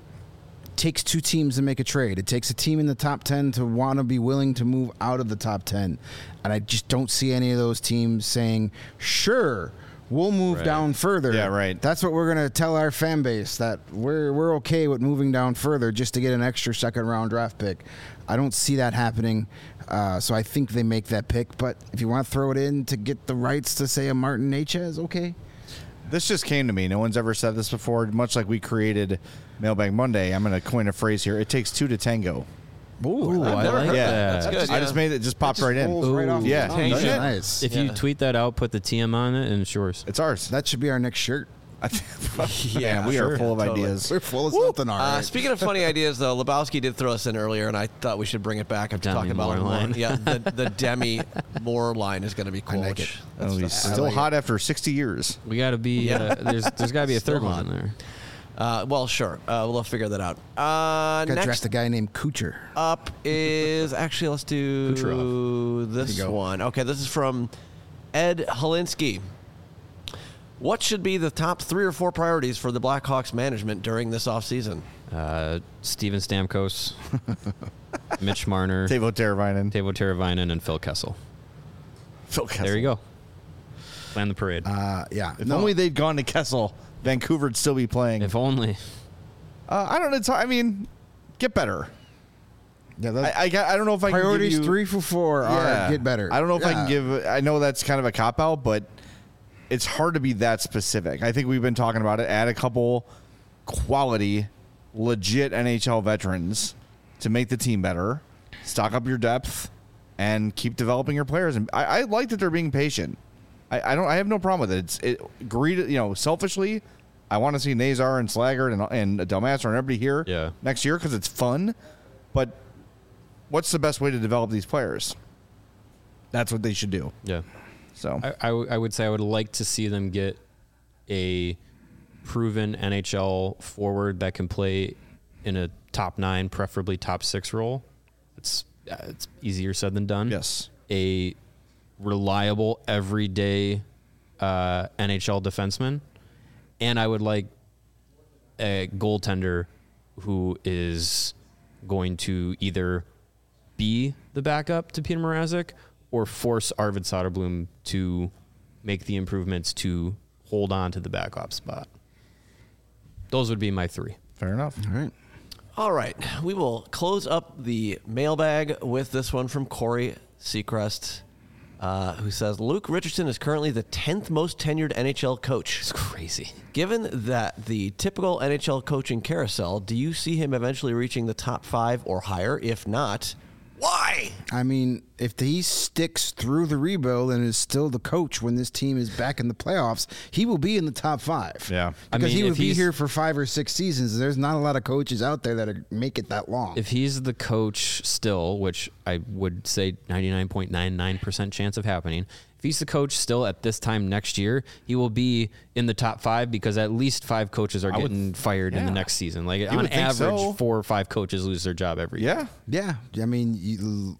It takes two teams to make a trade. It takes a team in the top 10 to want to be willing to move out of the top 10. And I just don't see any of those teams saying, sure, we'll move down further. Yeah, right. That's what we're going to tell our fan base, that we're okay with moving down further just to get an extra second-round draft pick. I don't see that happening. So I think they make that pick. But if you want to throw it in to get the rights to, say, a Martin Necas, okay. This just came to me. No one's ever said this before. Much like we created Mailbag Monday, I'm going to coin a phrase here. It takes two to tango. Ooh, I never like heard that. That's good. I just made it. Just popped right in. Rolls right off yeah. the tongue. Doesn't it? Nice. If you tweet that out, put the TM on it, and it's yours. It's ours. That should be our next shirt. Man, we are full of totally. ideas. We're full of something, all right. Speaking of funny ideas, though, Lebowski did throw us in earlier, and I thought we should bring it back after Demi talking about Moore it more. line. Yeah, the Demi Moore line is going to be cool. like it. Oh, he's still hot after 60 years. We got to be. There's got to be a Still third hot. one in there. Well, sure. We'll figure that out. Got to draft Next a guy named Kucher. up is actually, let's do Kucherov. this There you go. one. Okay, this is from Ed Holinsky. What should be the top 3 or 4 priorities for the Blackhawks management during this offseason? Steven Stamkos, Mitch Marner, Teuvo Teravainen. Teuvo Teravainen, and Phil Kessel. Phil Kessel. There you go. Plan the parade. Yeah. If only they'd gone to Kessel, Vancouver'd still be playing. if only. I don't know. I mean, get better. Yeah, I don't know if I priorities can give you 3 for 4 are get better. I don't know if I can Yeah. give. I know that's kind of a cop out, but it's hard to be that specific. I think we've been talking about it. Add a couple quality, legit NHL veterans to make the team better. Stock up your depth and keep developing your players. And I like that they're being patient. I have no problem with it. Selfishly, I want to see Nazar and Slaggert and Delmaster and everybody here next year because it's fun. But what's the best way to develop these players? That's what they should do. Yeah. So I would say I would like to see them get a proven NHL forward that can play in a top 9, preferably top 6 role. It's easier said than done. Yes. A reliable, everyday NHL defenseman. And I would like a goaltender who is going to either be the backup to Peter Mrazek or force Arvid Soderblom to make the improvements to hold on to the backup spot. Those would be my 3. Fair enough. All right. All right, we will close up the mailbag with this one from Corey Seacrest, who says, Luke Richardson is currently the 10th most tenured NHL coach. It's crazy. Given that the typical NHL coaching carousel, do you see him eventually reaching the top 5 or higher? If not, why? I mean, if he sticks through the rebuild and is still the coach when this team is back in the playoffs, he will be in the top 5. Yeah. Because he if would be he's- here for 5 or 6 seasons. There's not a lot of coaches out there that make it that long. If he's the coach still, which I would say 99.99% chance of happening, if he's the coach still at this time next year, he will be in the top 5 because at least 5 coaches are getting fired in the next season. Like on would think average, so. 4 or 5 coaches lose their job every year. Yeah. Yeah, I mean,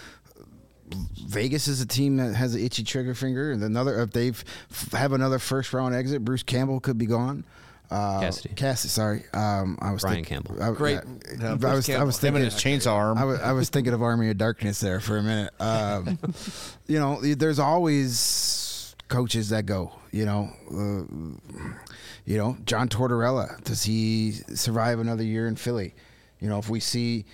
Vegas is a team that has an itchy trigger finger, and if they have another first round exit, Bruce Campbell could be gone. Cassidy. Sorry. I was Brian Campbell. Great. I was Bruce Campbell. was Him thinking and his chainsaw arm. I was thinking of Army of Darkness there for a minute. There's always coaches that go. John Tortorella, does he survive another year in Philly? If we see,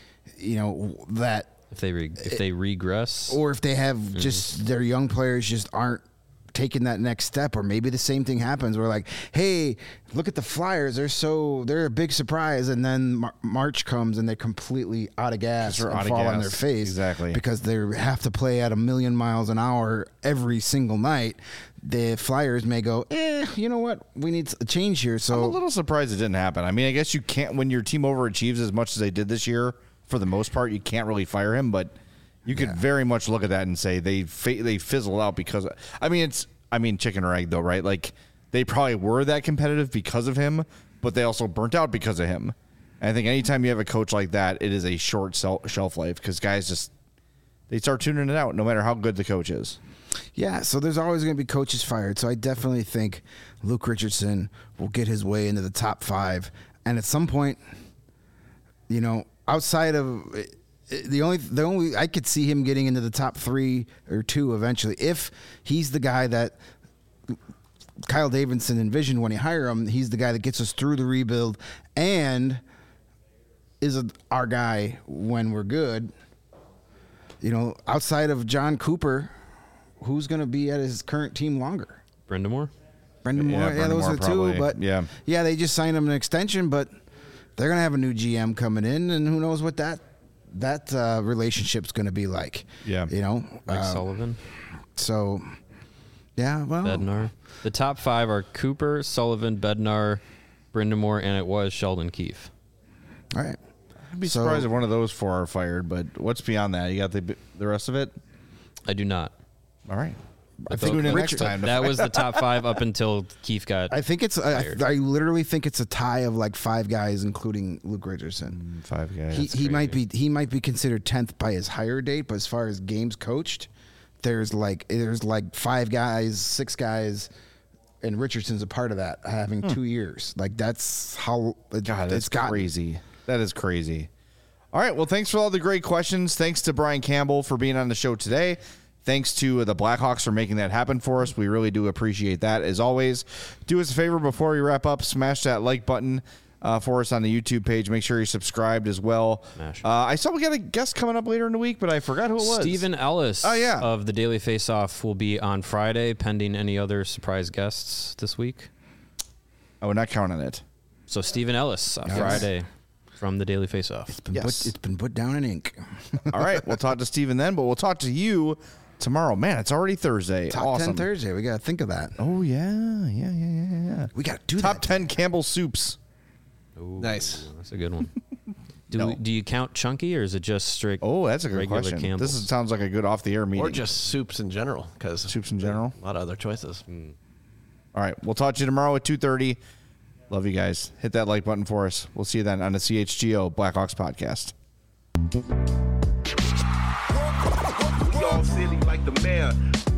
that, If they regress, or if they have just their young players just aren't taking that next step, or maybe the same thing happens. We're like, hey, look at the Flyers. They're a big surprise. And then March comes and they're completely out of gas and fall on their face. Exactly. Because they have to play at 1,000,000 miles an hour every single night. The Flyers may go, you know what? We need a change here. So I'm a little surprised it didn't happen. I mean, I guess you can't, when your team overachieves as much as they did this year, for the most part, you can't really fire him, but you could very much look at that and say they fizzled out because, chicken or egg though, right? Like, they probably were that competitive because of him, but they also burnt out because of him. And I think anytime you have a coach like that, it is a short shelf life because guys they start tuning it out no matter how good the coach is. Yeah, so there's always going to be coaches fired. So I definitely think Luke Richardson will get his way into the top 5. And at some point, outside of the only I could see him getting into the top 3 or 2 eventually, if he's the guy that Kyle Davidson envisioned when he hired him. He's the guy that gets us through the rebuild and is our guy when we're good. Outside of John Cooper, who's going to be at his current team longer? Brendan Moore. Yeah, those are probably. 2. But yeah, they just signed him an extension, but they're going to have a new GM coming in, and who knows what that relationship's going to be like. Yeah, Mike Sullivan. So, yeah, well, Bednar. The top 5 are Cooper, Sullivan, Bednar, Brendan Moore, and it was Sheldon Keefe. All right. I'd be surprised if one of those 4 are fired, but what's beyond that? You got the rest of it? I do not. All right. I think we next time. That was the top 5 up until Keefe got. I think it's. I literally think it's a tie of like 5 guys, including Luke Richardson. 5 guys. He might be considered 10th by his hire date, but as far as games coached, there's like 5 guys, 6 guys, and Richardson's a part of that, having 2 years. Like that's how. God, that's crazy. That is crazy. All right. Well, thanks for all the great questions. Thanks to Brian Campbell for being on the show today. Thanks to the Blackhawks for making that happen for us. We really do appreciate that. As always, do us a favor before we wrap up. Smash that like button for us on the YouTube page. Make sure you're subscribed as well. I saw we got a guest coming up later in the week, but I forgot who it was. Stephen Ellis of the Daily Faceoff will be on Friday, pending any other surprise guests this week. Oh, we're not counting it. So Stephen Ellis on Friday from the Daily Faceoff. It's been put down in ink. All right. We'll talk to Stephen then, but we'll talk to you tomorrow. Man, it's already Thursday. Top awesome. 10 Thursday. We got to think of that. Oh, yeah. We got to do Top that. 10 Campbell soups. Ooh, Nice. That's a good one. Do you count chunky, or is it just straight? Oh, that's a good regular question. Campbell's? This sounds like a good off-the-air meeting. Or just soups in general, because soups in general. A lot of other choices. All right. We'll talk to you tomorrow at 2:30. Love you guys. Hit that like button for us. We'll see you then on the CHGO Blackhawks podcast. We all silly like the mayor.